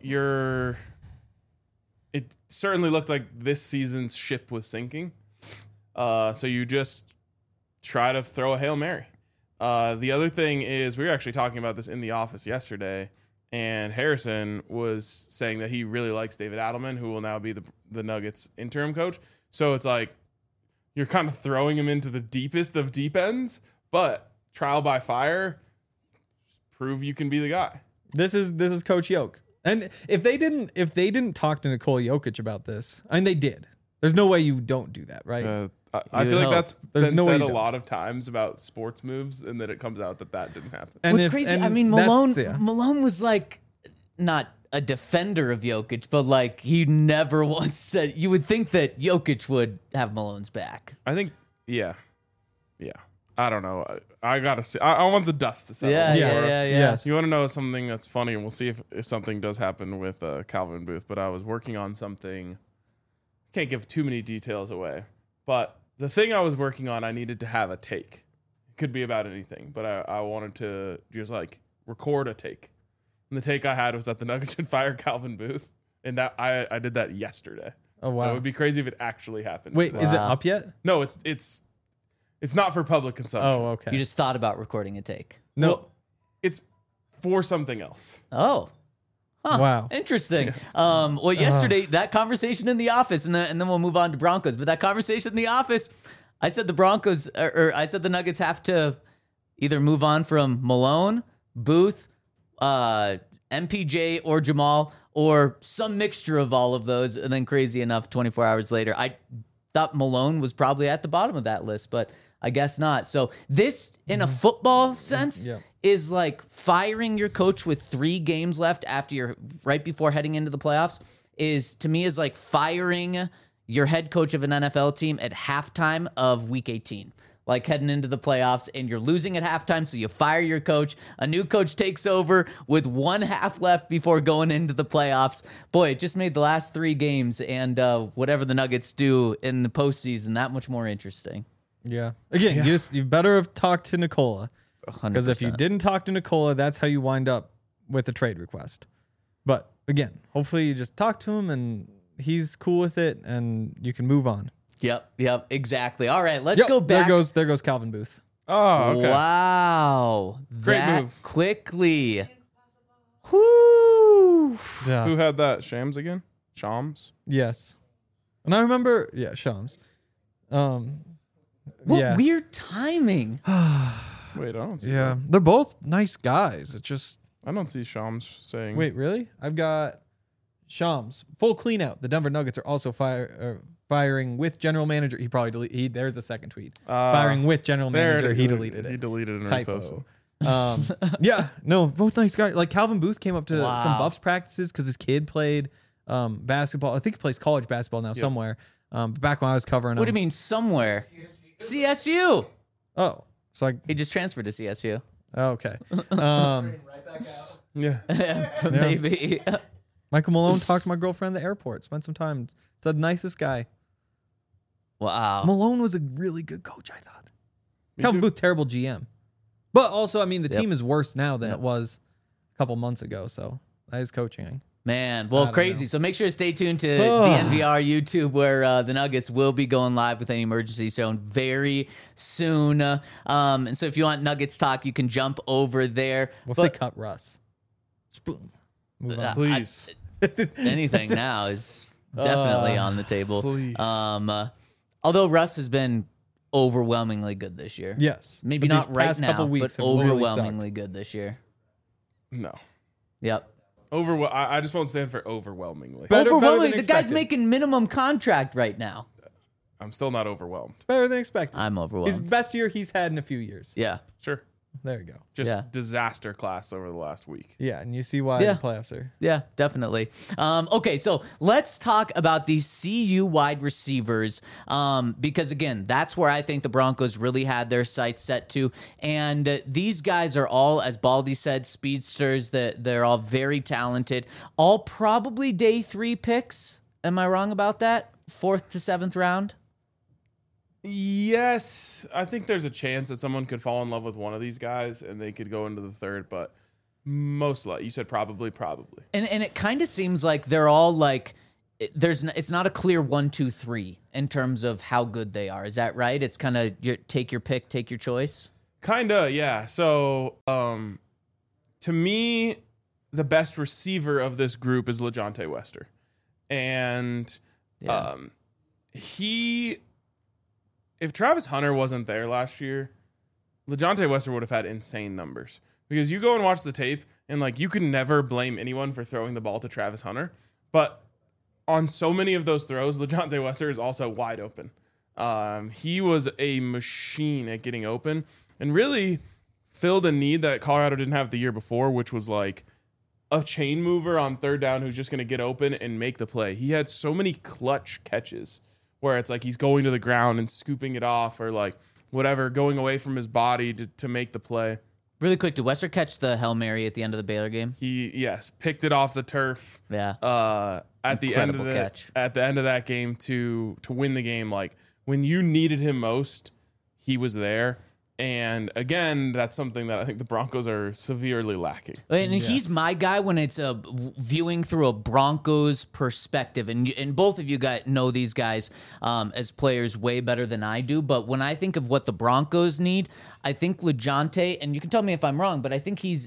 it certainly looked like this season's ship was sinking. So you just try to throw a Hail Mary. The other thing is, we were actually talking about this in the office yesterday, and Harrison was saying that he really likes David Adelman, who will now be the Nuggets interim coach. So it's like you're kind of throwing him into the deepest of deep ends, but trial by fire, prove you can be the guy. This is Coach Yoke. And if they didn't talk to Nikola Jokic about this, I mean, they did. There's no way you don't do that, right? I feel like that's There's been no way said you a don't. lot of times about sports moves, and then it comes out that didn't happen. And What's crazy? I mean, Malone was like not a defender of Jokic, but like he never once said. You would think that Jokic would have Malone's back. I think, yeah. I don't know. I gotta see. I want the dust to settle. Yeah, Yes. yeah. Yes. You want to know something that's funny, and we'll see if something does happen with Calvin Booth. But I was working on something. Can't give too many details away, but the thing I was working on, I needed to have a take. It could be about anything, but I wanted to just like record a take. And the take I had was that the Nuggets should fire Calvin Booth, and that I did that yesterday. Oh So wow. it would be crazy if it actually happened. Wait, today. is it up yet? No, it's not for public consumption. Oh, okay. You just thought about recording a take. no. Well, it's for something else. Oh. Huh, Wow. Interesting. Well, yesterday, that conversation in the office, and then we'll move on to Broncos. But that conversation in the office, I said the Broncos, or I said the Nuggets have to either move on from Malone, Booth, MPJ, or Jamal, or some mixture of all of those. And then crazy enough, 24 hours later, I thought Malone was probably at the bottom of that list, but I guess not. So this, in a football sense, Yeah. is like firing your coach with 3 games left after you're right before heading into the playoffs is, to me, is like firing your head coach of an NFL team at halftime of week 18. like heading into the playoffs, and you're losing at halftime, so you fire your coach. A new coach takes over with 1 half left before going into the playoffs. Boy, it just made the last 3 games and whatever the Nuggets do in the postseason that much more interesting. Yeah. Again, you better have talked to Nikola. 100%. Because if you didn't talk to Nikola, that's how you wind up with a trade request. But again, hopefully you just talk to him and he's cool with it and you can move on. Yep, exactly. All right, let's go back. There goes Calvin Booth. Oh, okay. Wow. Great that move. Quickly. Whoo. Yeah. Who had that? Shams again? Shams? Yes. And I remember, Shams. What weird timing. Wait, I don't see Yeah. that. They're both nice guys. It's just, I don't see Shams saying. wait, really? I've got Shams. Full clean out. The Denver Nuggets are also firing with general manager. He probably deleted. There's the second tweet. Firing with general manager. He deleted it. He deleted and Typo. reposted. Yeah, no, both nice guys. Like Calvin Booth came up to Wow. some Buffs practices because his kid played basketball. I think he plays college basketball now somewhere. But back when I was covering What do him. you mean somewhere? CSU. Oh, it's like, He just transferred to CSU. okay. Yeah. Maybe. Michael Malone talked to my girlfriend at the airport. Spent some time. Said nicest guy. Wow. Malone was a really good coach, I thought. Me Calvin too. Booth, terrible GM. But also, I mean, the Yep. team is worse now than Yep. it was a couple months ago. So that is coaching. Man, well, don't crazy. know. So make sure to stay tuned to DNVR YouTube, where the Nuggets will be going live with any emergency zone very soon. And so if you want Nuggets talk, you can jump over there. What But if they cut Russ? Just boom. Move on. Please. anything now is definitely on the table. Please. Although Russ has been overwhelmingly good this year. Yes. Maybe But not these right past now, couple but weeks have really overwhelmingly good this year. No. Yep. I just won't stand for overwhelmingly. Better Overwhelmingly, than the guy's expected. making minimum contract right now. I'm still not overwhelmed. Better than expected. I'm His overwhelmed. best year he's had in a few years. Yeah. Sure. There you go. Just Yeah. disaster class over the last week. Yeah, and you see why Yeah. the playoffs are. Yeah, definitely. Okay, so let's talk about these CU wide receivers because, again, that's where I think the Broncos really had their sights set to. And these guys are all, as Baldy said, speedsters. That they're all very talented. All probably day 3 picks. Am I wrong about that? 4th to 7th round? Yes, I think there's a chance that someone could fall in love with one of these guys and they could go into the third, but most likely, you said probably. And it kind of seems like they're all like it's not a clear 1, 2, 3 in terms of how good they are. Is that right? It's kind of take your pick, take your choice. Kinda, yeah. So, to me, the best receiver of this group is LeJontay Wester, and Yeah. if Travis Hunter wasn't there last year, LeJontay Wester would have had insane numbers. Because you go and watch the tape, and like you can never blame anyone for throwing the ball to Travis Hunter, but on so many of those throws, LeJontay Wester is also wide open. He was a machine at getting open and really filled a need that Colorado didn't have the year before, which was like a chain mover on 3rd down who's just going to get open and make the play. He had so many clutch catches where it's like he's going to the ground and scooping it off or like whatever, going away from his body to make the play. Really quick, did Wester catch the Hail Mary at the end of the Baylor game? He picked it off the turf. Yeah. At the end of Incredible catch. that game to win the game. Like when you needed him most, he was there. And again, that's something that I think the Broncos are severely lacking. And he's my guy when it's viewing through a Broncos perspective. And both of you guys know these guys as players way better than I do. But when I think of what the Broncos need, I think LeJontay, and you can tell me if I'm wrong, but I think he's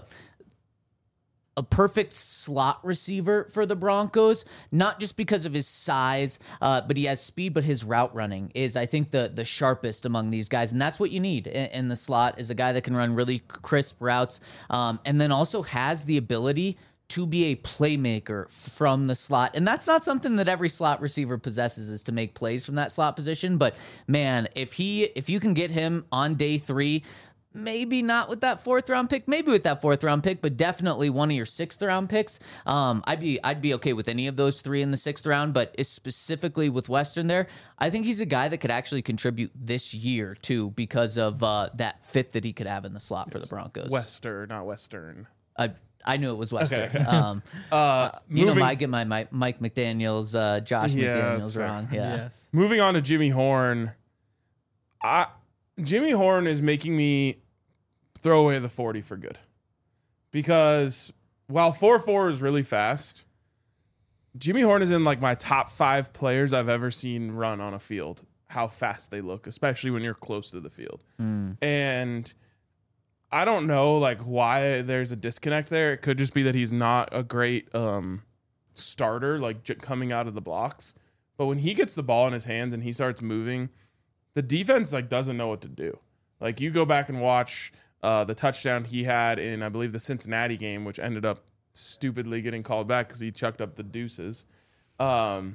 a perfect slot receiver for the Broncos, not just because of his size, but he has speed, but his route running is, I think, the sharpest among these guys. And that's what you need in the slot, is a guy that can run really crisp routes and then also has the ability to be a playmaker from the slot. And that's not something that every slot receiver possesses, is to make plays from that slot position. But man, if you can get him on day 3, Maybe not with that 4th round pick, maybe with that 4th round pick, but definitely one of your 6th round picks. I'd be okay with any of those 3 in the 6th round, but specifically with Western there, I think he's a guy that could actually contribute this year too because of that fit that he could have in the slot for the Broncos. Western, not Western. I knew it was Western. Okay. I get my Mike McDaniels, Josh Yeah, McDaniels that's fair. wrong. Yeah. Yes. Moving on to Jimmy Horn. Jimmy Horn is making me throw away the 40 for good. Because while 4.4 is really fast, Jimmy Horn is in like my top 5 players I've ever seen run on a field. How fast they look, especially when you're close to the field. And I don't know like why there's a disconnect there. It could just be that he's not a great starter, like coming out of the blocks. But when he gets the ball in his hands and he starts moving, the defense like doesn't know what to do. Like you go back and watch the touchdown he had in, I believe, the Cincinnati game, which ended up stupidly getting called back because he chucked up the deuces. The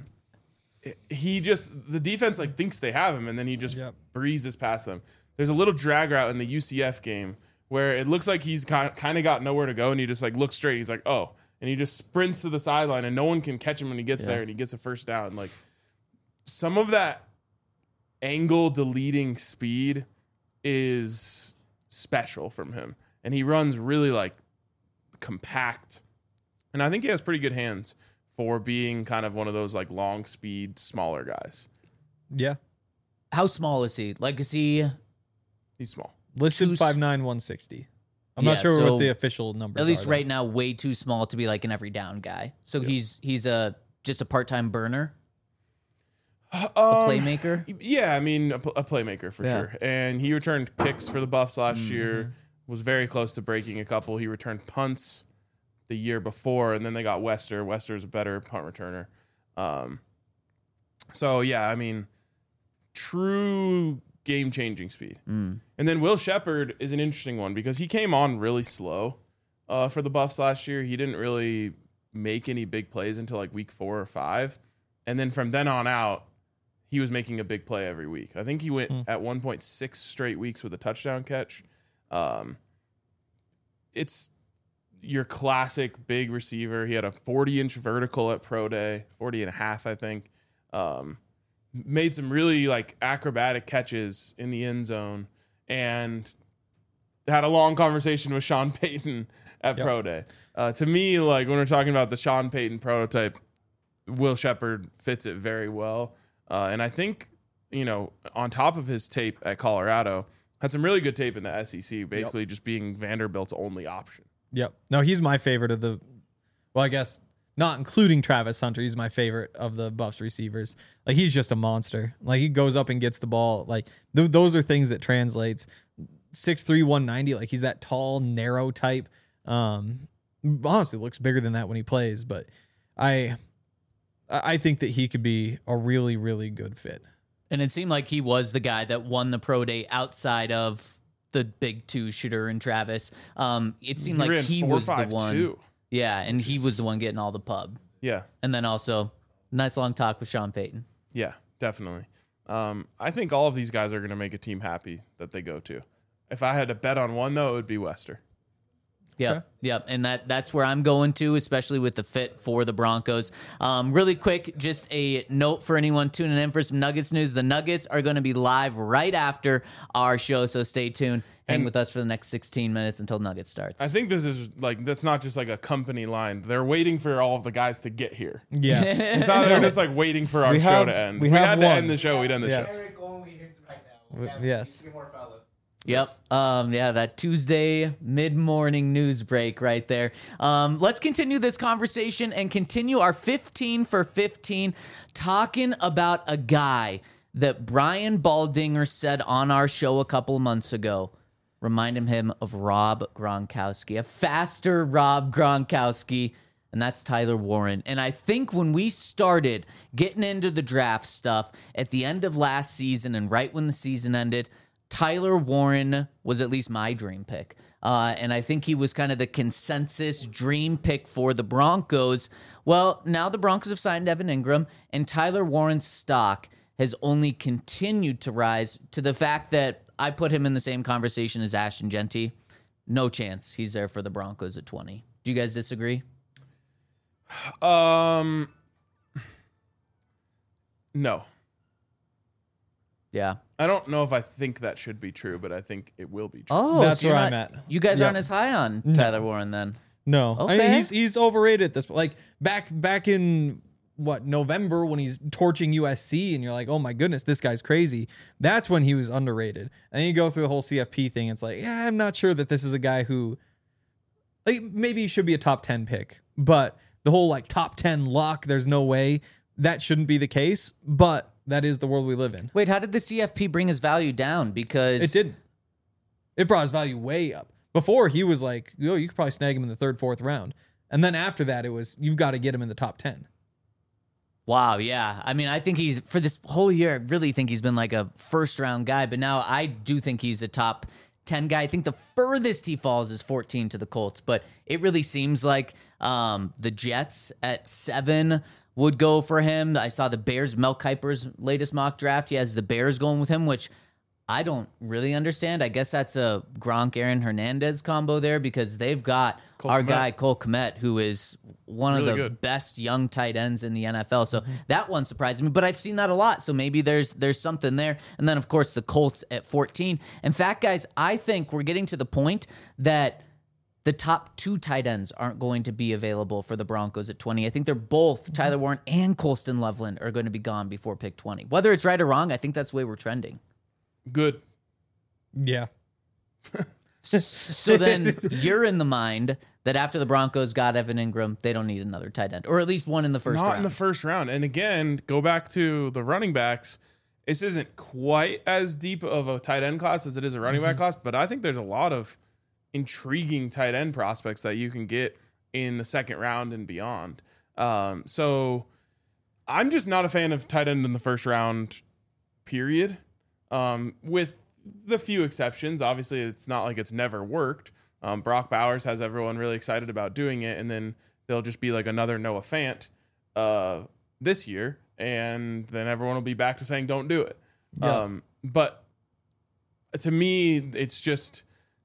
defense like thinks they have him, and then he just breezes past them. There's a little drag route in the UCF game where it looks like he's kind of got nowhere to go, and he just like looks straight. He's like, oh, and he just sprints to the sideline, and no one can catch him when he gets there, and he gets a first down. Like some of that angle deleting speed is special from him, and he runs really like compact, and I think he has pretty good hands for being kind of one of those like long speed smaller guys. Yeah. How small is he? Like, is he He's small, Listed 5'9", 160. I'm not sure so what the official numbers are. at least though. right now way too small to be like an every down guy. So he's just a part-time burner, a playmaker. Yeah, I mean a playmaker for sure. And he returned kicks for the Buffs last year. Was very close to breaking a couple. He returned punts the year before, and then they got Wester. Wester's a better punt returner. So yeah, I mean, true game-changing speed. And then Will Shepherd is an interesting one because he came on really slow for the Buffs last year. He didn't really make any big plays until like week 4 or 5. And then from then on out, he was making a big play every week. I think he went at 1.6 straight weeks with a touchdown catch. It's your classic big receiver. He had a 40-inch vertical at Pro Day, 40 and a half, I think. Made some really like acrobatic catches in the end zone, and had a long conversation with Sean Payton at Pro Day. To me, like when we're talking about the Sean Payton prototype, Will Shepherd fits it very well. And I think, on top of his tape at Colorado, had some really good tape in the SEC, basically just being Vanderbilt's only option. Yep. No, he's my favorite of the, well, I guess not including Travis Hunter. He's my favorite of the Buffs receivers. Like he's just a monster. Like he goes up and gets the ball. Like those are things that translates. 6'3", 190. Like he's that tall, narrow type. Honestly, looks bigger than that when he plays. But I think that he could be a really, really good fit. And it seemed like he was the guy that won the pro day outside of the big 2 shooter and Travis. It seemed like he was the one. Yeah, and he was the one getting all the pub. Yeah. And then also, nice long talk with Sean Payton. Yeah, definitely. I think all of these guys are going to make a team happy that they go to. If I had to bet on one, though, it would be Wester. Yep, okay. Yep, and that's where I'm going to, especially with the fit for the Broncos. Really quick, just a note for anyone tuning in for some Nuggets news. The Nuggets are going to be live right after our show, so stay tuned. Hang with us for the next 16 minutes until Nuggets starts. I think this is that's not just like a company line. They're waiting for all of the guys to get here. Yes. It's not they're just like waiting for our show to end. We had to end the show. We'd end the show. Eric only hits right now. Yes. More fellas. Yep. That Tuesday mid-morning news break right there. Let's continue this conversation and continue our 15 for 15 talking about a guy that Brian Baldinger said on our show a couple of months ago. Reminding him of Rob Gronkowski, a faster Rob Gronkowski, and that's Tyler Warren. And I think when we started getting into the draft stuff at the end of last season and right when the season ended, Tyler Warren was at least my dream pick. And I think he was kind of the consensus dream pick for the Broncos. Well, now the Broncos have signed Evan Ingram, and Tyler Warren's stock has only continued to rise to the fact that I put him in the same conversation as Ashton Genty. No chance he's there for the Broncos at 20. Do you guys disagree? No. Yeah. I don't know if I think that should be true, but I think it will be true. Oh, That's so you're where I'm not- at. You guys Yep. aren't as high on Tyler Warren then. No, I mean Okay. he's overrated at this. Like back in November when he's torching USC, and you're like, oh my goodness, this guy's crazy. That's when he was underrated. And then you go through the whole CFP thing. It's like, yeah, I'm not sure that this is a guy who, like, maybe he should be a top 10 pick, but the whole like top 10 lock, there's no way that shouldn't be the case. But that is the world we live in. Wait, how did the CFP bring his value down? Because It did. It brought his value way up. Before he was like, oh, you could probably snag him in the 3rd, 4th round. And then after that, it was, you've got to get him in the top 10. Wow, yeah. I mean, I think he's, for this whole year, I really think he's been like a first round guy, but now I do think he's a top 10 guy. I think the furthest he falls is 14 to the Colts, but it really seems like the Jets at 7 would go for him. I saw the Bears, Mel Kiper's latest mock draft. He has the Bears going with him, which I don't really understand. I guess that's a Gronk, Aaron Hernandez combo there because they've got our Kmet. guy, Cole Kmet, who is one Really of the good. best young tight ends in the NFL. So that one surprised me, but I've seen that a lot. So maybe there's something there. And then, of course, the Colts at 14. In fact, guys, I think we're getting to the point that the top 2 tight ends aren't going to be available for the Broncos at 20. I think they're both, Tyler Warren and Colston Loveland, are going to be gone before pick 20. Whether it's right or wrong, I think that's the way we're trending. Good. Yeah. So then you're in the mind that after the Broncos got Evan Ingram, they don't need another tight end, or at least one in the first Not round. in the first round. And again, go back to the running backs. This isn't quite as deep of a tight end class as it is a running back class, but I think there's a lot of intriguing tight end prospects that you can get in the 2nd round and beyond. So I'm just not a fan of tight end in the first round, period. With the few exceptions, obviously it's not like it's never worked. Brock Bowers has everyone really excited about doing it, and then they'll just be like another Noah Fant this year, and then everyone will be back to saying don't do it. Yeah. But to me, it's just,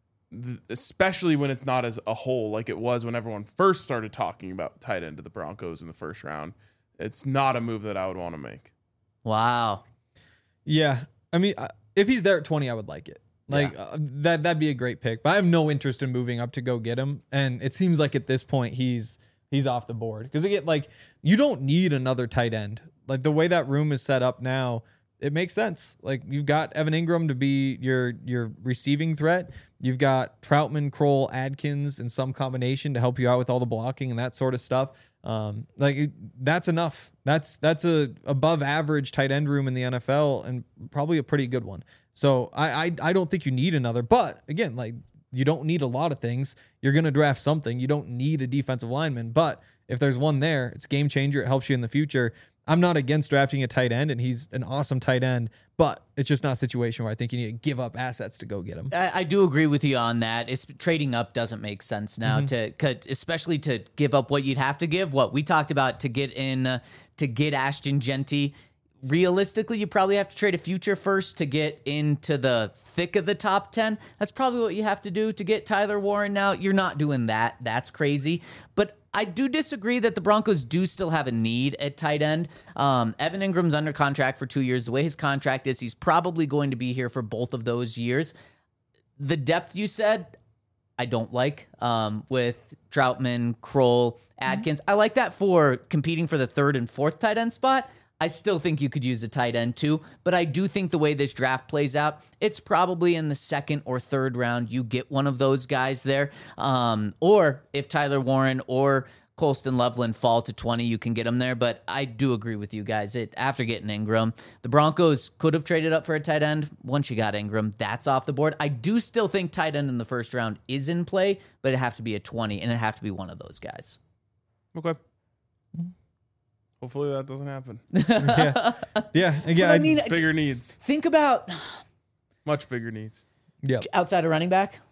especially when it's not as a whole like it was when everyone first started talking about tight end to the Broncos in the first round, it's not a move that I would want to make. Wow. Yeah. I mean, if he's there at 20, I would like it. Like that'd be a great pick. But I have no interest in moving up to go get him. And it seems like at this point he's off the board because like you don't need another tight end. Like the way that room is set up now, it makes sense. Like you've got Evan Ingram to be your receiving threat. You've got Troutman, Kroll, Adkins in some combination to help you out with all the blocking and that sort of stuff. That's enough. That's a above average tight end room in the NFL and probably a pretty good one. So I don't think you need another, but again, like you don't need a lot of things. You're going to draft something. You don't need a defensive lineman, but if there's one there, it's a game changer. It helps you in the future. I'm not against drafting a tight end, and he's an awesome tight end, but it's just not a situation where I think you need to give up assets to go get him. I do agree with you on that. Trading up doesn't make sense now, especially to give up what you'd have to give. What we talked about to get Ashton Genty. Realistically, you probably have to trade a future first to get into the thick of the top 10. That's probably what you have to do to get Tyler Warren now. You're not doing that. That's crazy. But I do disagree that the Broncos do still have a need at tight end. Evan Ingram's under contract for 2 years. The way his contract is, he's probably going to be here for both of those years. The depth you said, I don't like with Troutman, Kroll, Adkins. I like that for competing for the 3rd and 4th tight end spot. I still think you could use a tight end too, but I do think the way this draft plays out, it's probably in the 2nd or 3rd round you get one of those guys there. Or if Tyler Warren or Colston Loveland fall to 20, you can get them there. But I do agree with you guys. After getting Ingram, the Broncos could have traded up for a tight end. Once you got Ingram, that's off the board. I do still think tight end in the first round is in play, but it have to be a 20, and it have to be one of those guys. Okay. Hopefully that doesn't happen. Yeah. Again, I mean, Bigger needs. think about Much bigger needs. yeah. outside of running back.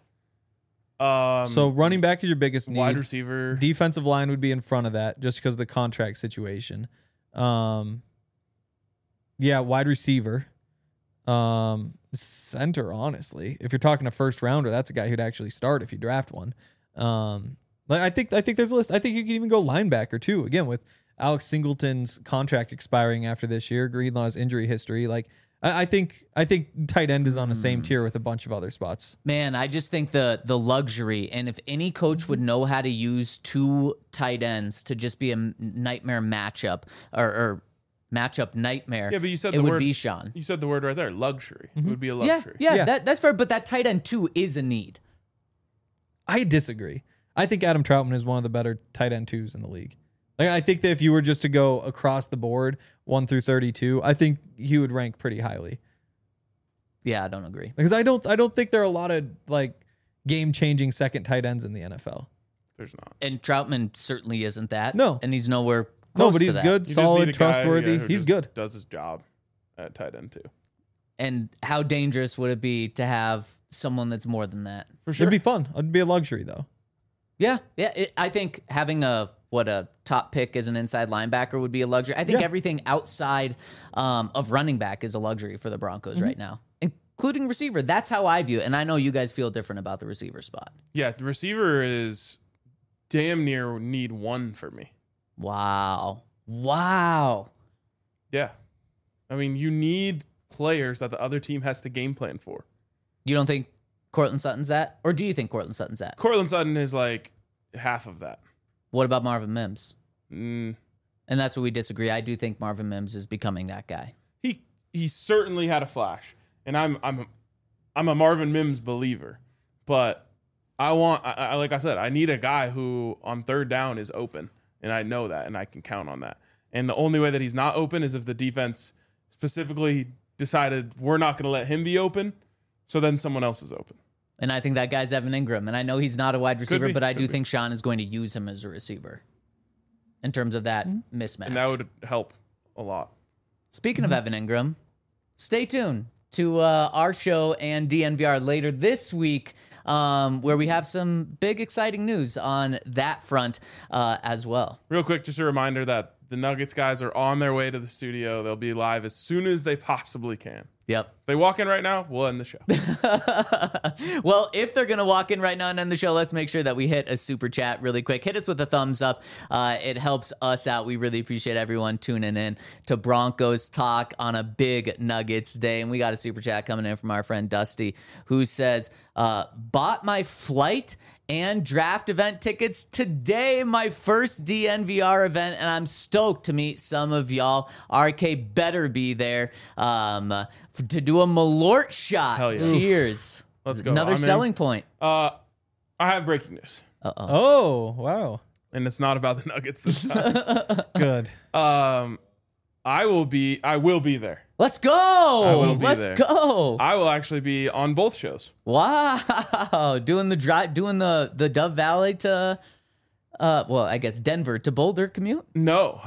So running back is your biggest need. Wide receiver. Defensive line would be in front of that just because of the contract situation. Yeah, wide receiver. Center, honestly. If you're talking a first rounder, that's a guy who'd actually start if you draft one. Like I think there's a list. I think you can even go linebacker too. Again, with Alex Singleton's contract expiring after this year, Greenlaw's injury history, like I think tight end is on the same tier with a bunch of other spots. Man, I just think the luxury, and if any coach would know how to use 2 tight ends to just be a nightmare matchup or matchup nightmare, Yeah, but you said it the would word. be Sean. You said the word right there. Luxury. It would be a Yeah, luxury. yeah, Yeah. that's fair. But that tight end too is a need. I disagree. I think Adam Troutman is one of the better tight end 2s in the league. Like I think that if you were just to go across the board 1 through 32, I think he would rank pretty highly. Yeah, I don't agree. Because I don't think there are a lot of like game-changing second tight ends in the NFL. There's not. And Troutman certainly isn't that. No. And he's nowhere close No, but to he's that. good, You just solid, need a guy, trustworthy. who He's just good. Does his job at tight end too. And how dangerous would it be to have someone that's more than that? For sure. It'd be fun. It'd be a luxury though. Yeah. I think having a top pick as an inside linebacker would be a luxury. I think Yeah. everything outside of running back is a luxury for the Broncos right now, including receiver. That's how I view it. And I know you guys feel different about the receiver spot. Yeah, the receiver is damn near need 1 for me. Wow. Yeah. I mean, you need players that the other team has to game plan for. You don't think Cortland Sutton's that? Or do you think Cortland Sutton's that? Cortland Sutton is like half of that. What about Marvin Mims? Mm, And that's where we disagree. I do think Marvin Mims is becoming that guy. he certainly had a flash, and I'm a Marvin Mims believer, but I like I said, I need a guy who on third down is open, and I know that, and I can count on that. And the only way that he's not open is if the defense specifically decided we're not going to let him be open, so then someone else is open. And I think that guy's Evan Ingram. And I know he's not a wide receiver, be, but I could do be. think Sean is going to use him as a receiver in terms of that mismatch. And that would help a lot. Speaking of Evan Ingram, stay tuned to our show and DNVR later this week, where we have some big, exciting news on that front as well. Real quick, just a reminder that the Nuggets guys are on their way to the studio. They'll be live as soon as they possibly can. Yep. If they walk in right now, we'll end the show. Well, if they're going to walk in right now and end the show, let's make sure that we hit a super chat really quick. Hit us with a thumbs up. It helps us out. We really appreciate everyone tuning in to Broncos Talk on a big Nuggets day. And we got a super chat coming in from our friend Dusty, who says, bought my flight and draft event tickets today, my first DNVR event, and I'm stoked to meet some of y'all. RK better be there to do a Malort shot. Hell yeah. Cheers. Let's go. Another I'm in. selling point. I have breaking news, Oh, wow. and it's not about the Nuggets this time. Good. I will be there. Let's go. will be Let's there. go. I will actually be on both shows. Wow. Doing the drive, doing the Dove Valley to, I guess Denver to Boulder commute. No.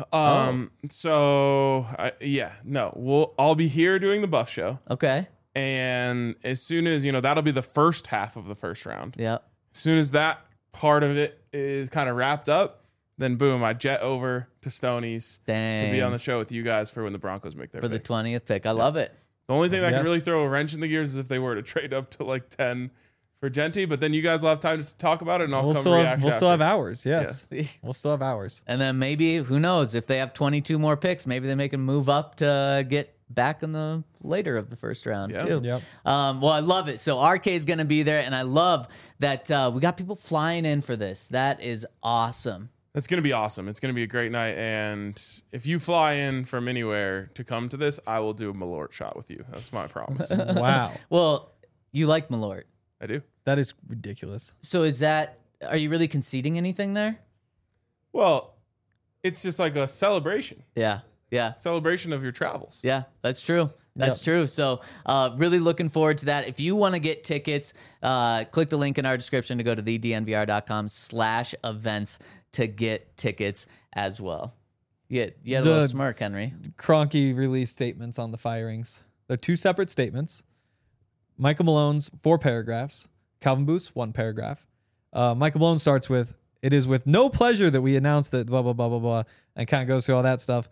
I'll be here doing the Buff show, Okay. and as soon as that'll be the first half of the first round. Yeah. As soon as that part of it is kind of wrapped up, then boom, I jet over to Stoney's to be Dang. on the show with you guys for when the Broncos make their For the pick. 20th pick. I love it. The only thing that Yes. could really throw a wrench in the gears is if they were to trade up to like 10 for Genty, but then you guys will have time to talk about it, and I'll We'll come still react have after. hours. Yes. We'll still have hours. And then maybe, who knows, if they have 22 more picks, maybe they make a move up to get back in the later of the first round Yeah. too. Yep. Well, I love it. So RK is going to be there, and I love that we got people flying in for this. That is awesome. That's going to be awesome. It's going to be a great night, and if you fly in from anywhere to come to this, I will do a Malort shot with you. That's my promise. Wow. Well, you like Malort. I do. That is ridiculous. So are you really conceding anything there? Well, it's just like a celebration of your travels. Yeah, that's true. That's Yep. true. So really looking forward to that. If you want to get tickets, click the link in our description to go to thednvr.com/events to get tickets as well. You had a little The- smirk, Henry. Kroenke released statements on the firings. They're two separate statements. Michael Malone's 4 paragraphs. Calvin Booth's 1 paragraph. Michael Malone starts with, "It is with no pleasure that we announce that blah, blah, blah, blah, blah," and kind of goes through all that stuff.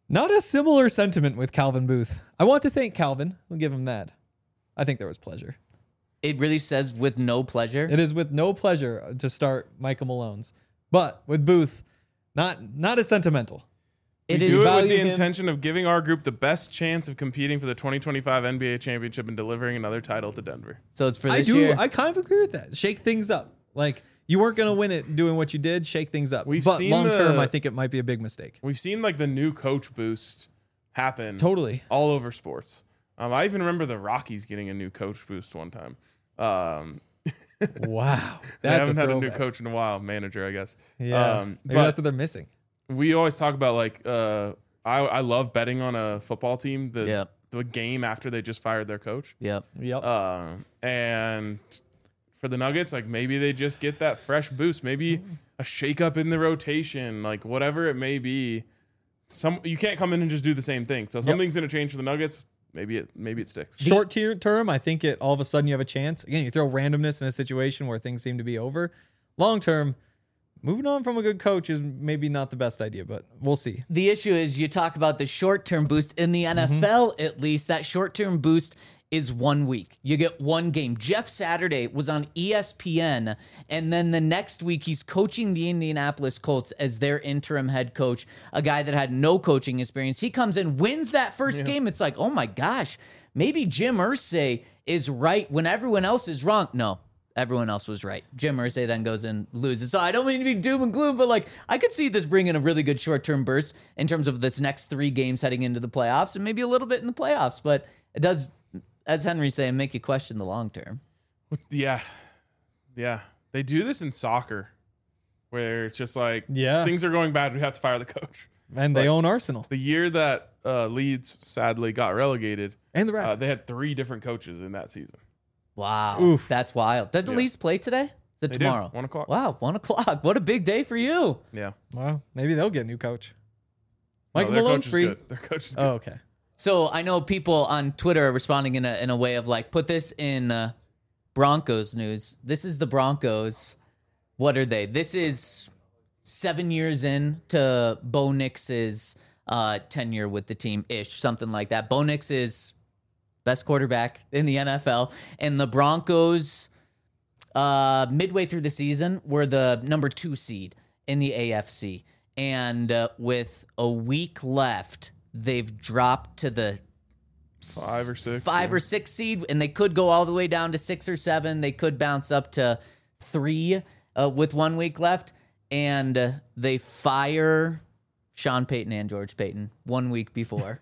Not a similar sentiment with Calvin Booth. I want to thank Calvin. We'll give him that. I think there was pleasure. It really says with no pleasure. It is with no pleasure to start Michael Malone's. But with Booth, not as sentimental. It We is do it with value the him. intention of giving our group the best chance of competing for the 2025 NBA championship and delivering another title to Denver. So it's for I this do. year. I kind of agree with that. Shake things up. Like, you weren't going to win it doing what you did. Shake things up. We've but seen long term, the- I think it might be a big mistake. We've seen like the new coach boost happen Totally. all over sports. I even remember the Rockies getting a new coach boost one time. Wow. They That's haven't had a new throwback. coach in a while, manager, I guess. Yeah. Maybe but that's what they're missing. we always talk about like I love betting on a football team Yep. the game after they just fired their coach. Yep. Yep. And for the Nuggets, like maybe they just get that fresh boost, maybe a shakeup in the rotation, like whatever it may be. You can't come in and just do the same thing. So something's going to change for the Nuggets. Maybe it sticks. Short term, I think all of a sudden you have a chance. Again, you throw randomness in a situation where things seem to be over. Long term, moving on from a good coach is maybe not the best idea, but we'll see. The issue is you talk about the short-term boost in the NFL, at least that short-term boost is 1 week. You get one game. Jeff Saturday was on ESPN, and then the next week he's coaching the Indianapolis Colts as their interim head coach, a guy that had no coaching experience. He comes in, wins that first game. It's like, oh my gosh, maybe Jim Irsay is right when everyone else is wrong. No, everyone else was right. Jim Irsay then goes and loses. So I don't mean to be doom and gloom, but like I could see this bringing a really good short-term burst in terms of this next 3 games heading into the playoffs and maybe a little bit in the playoffs. But it does, as Henry's saying, make you question the long term. Yeah. They do this in soccer where it's just like Yeah. things are going bad. We have to fire the coach. And they own Arsenal The year that Leeds sadly got relegated, and the Rapids. they had 3 different coaches in that season. Wow. Oof. That's wild. Doesn't Yeah. Leeds play today? Is it They tomorrow? do. 1 o'clock. Wow, 1 o'clock. What a big day for you. Yeah. Well, maybe they'll get a new coach. No, Michael their Malone's coach is free. good. Their coach is good. Oh, okay. So I know people on Twitter are responding in a way of like, put this in Broncos news. This is the Broncos. What are they? This is 7 years in to Bo Nix's tenure with the team ish, something like that. Bo Nix is best quarterback in the NFL, and the Broncos midway through the season were the number 2 seed in the AFC, and with a week left, they've dropped to the 5 or 6. 5 or 6 seed, and they could go all the way down to 6 or 7. They could bounce up to 3 with 1 week left, and they fire Sean Payton and George Payton 1 week before.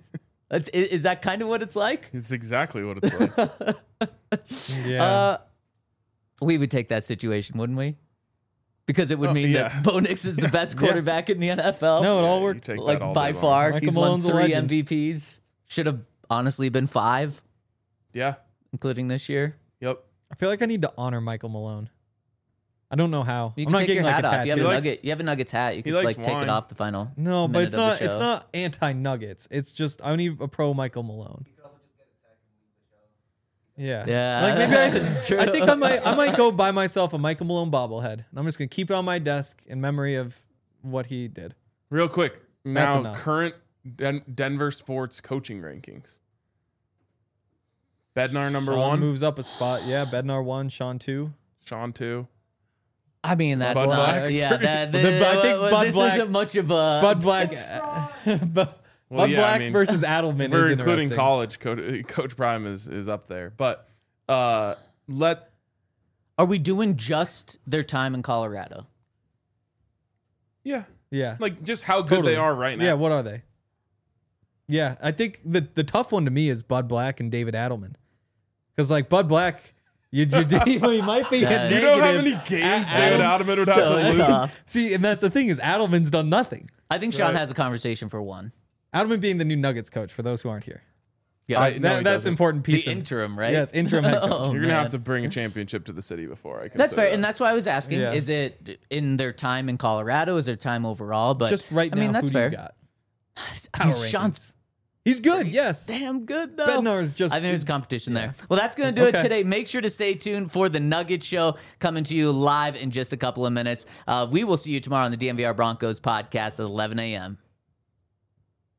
Is that kind of what it's like? It's exactly what it's like. Yeah. We would take that situation, wouldn't we? Because it would mean yeah. that Bo Nix is the best quarterback in the NFL. no, it all You worked. take that like all by day long. far, Michael he's won Malone's a 3 legend. MVPs. Should have honestly been 5, Yeah. including this year. Yep. I feel like I need to honor Michael Malone. I don't know how. You I'm can not take getting your like hat a off. tattoo. You have a He nugget. likes- You have a Nuggets hat. You could likes like take it wine. off the final. No, but minute it's of the not. It's show. not anti-Nuggets. It's just I need a pro Michael Malone. Yeah. Yeah, Like maybe that's true. I think I might go buy myself a Michael Malone bobblehead, and I'm just gonna keep it on my desk in memory of what he did. Real quick. That's Now, enough. current Denver sports coaching rankings. Bednar number Sean 1. moves up a spot. Yeah, Bednar 1, Sean 2. Sean 2. I mean, that's Bud not. Black? Yeah, I think Bud this Black- isn't much of a. Bud Black. Bud Well, yeah, Black I mean, versus Adelman We're is including interesting. college. Coach Prime is up there. But let Are we doing just their time in Colorado? yeah, Yeah. like just how good Totally. they are right now. Yeah, what are they? Yeah, I think the tough one to me is Bud Black and David Adelman. Because, like, Bud Black, you might be Yeah. a Do you know how negative. many games Ad- David Adam's Adelman would have so to lose? tough. See, and that's the thing is Adelman's done nothing. I think Sean Right. has a conversation for 1. Adelman being the new Nuggets coach, for those who aren't here. Yeah, I- no, he That's doesn't. important the piece of interim, right? Yes, interim head coach. Oh, You're gonna man. have to bring a championship to the city before I can. That's say fair, that. and that's why I was asking: Yeah. is it in their time in Colorado? Is their time overall? But Just right I now, mean, that's who do fair. you got? I mean, Power Sean's rankings. He's good, yes. damn good though. Bednar's just- I think there's it's- competition yeah. there. Well, that's gonna do it Okay. today. Make sure to stay tuned for the Nugget Show coming to you live in just a couple of minutes. We will see you tomorrow on the DNVR Broncos podcast at 11 a.m.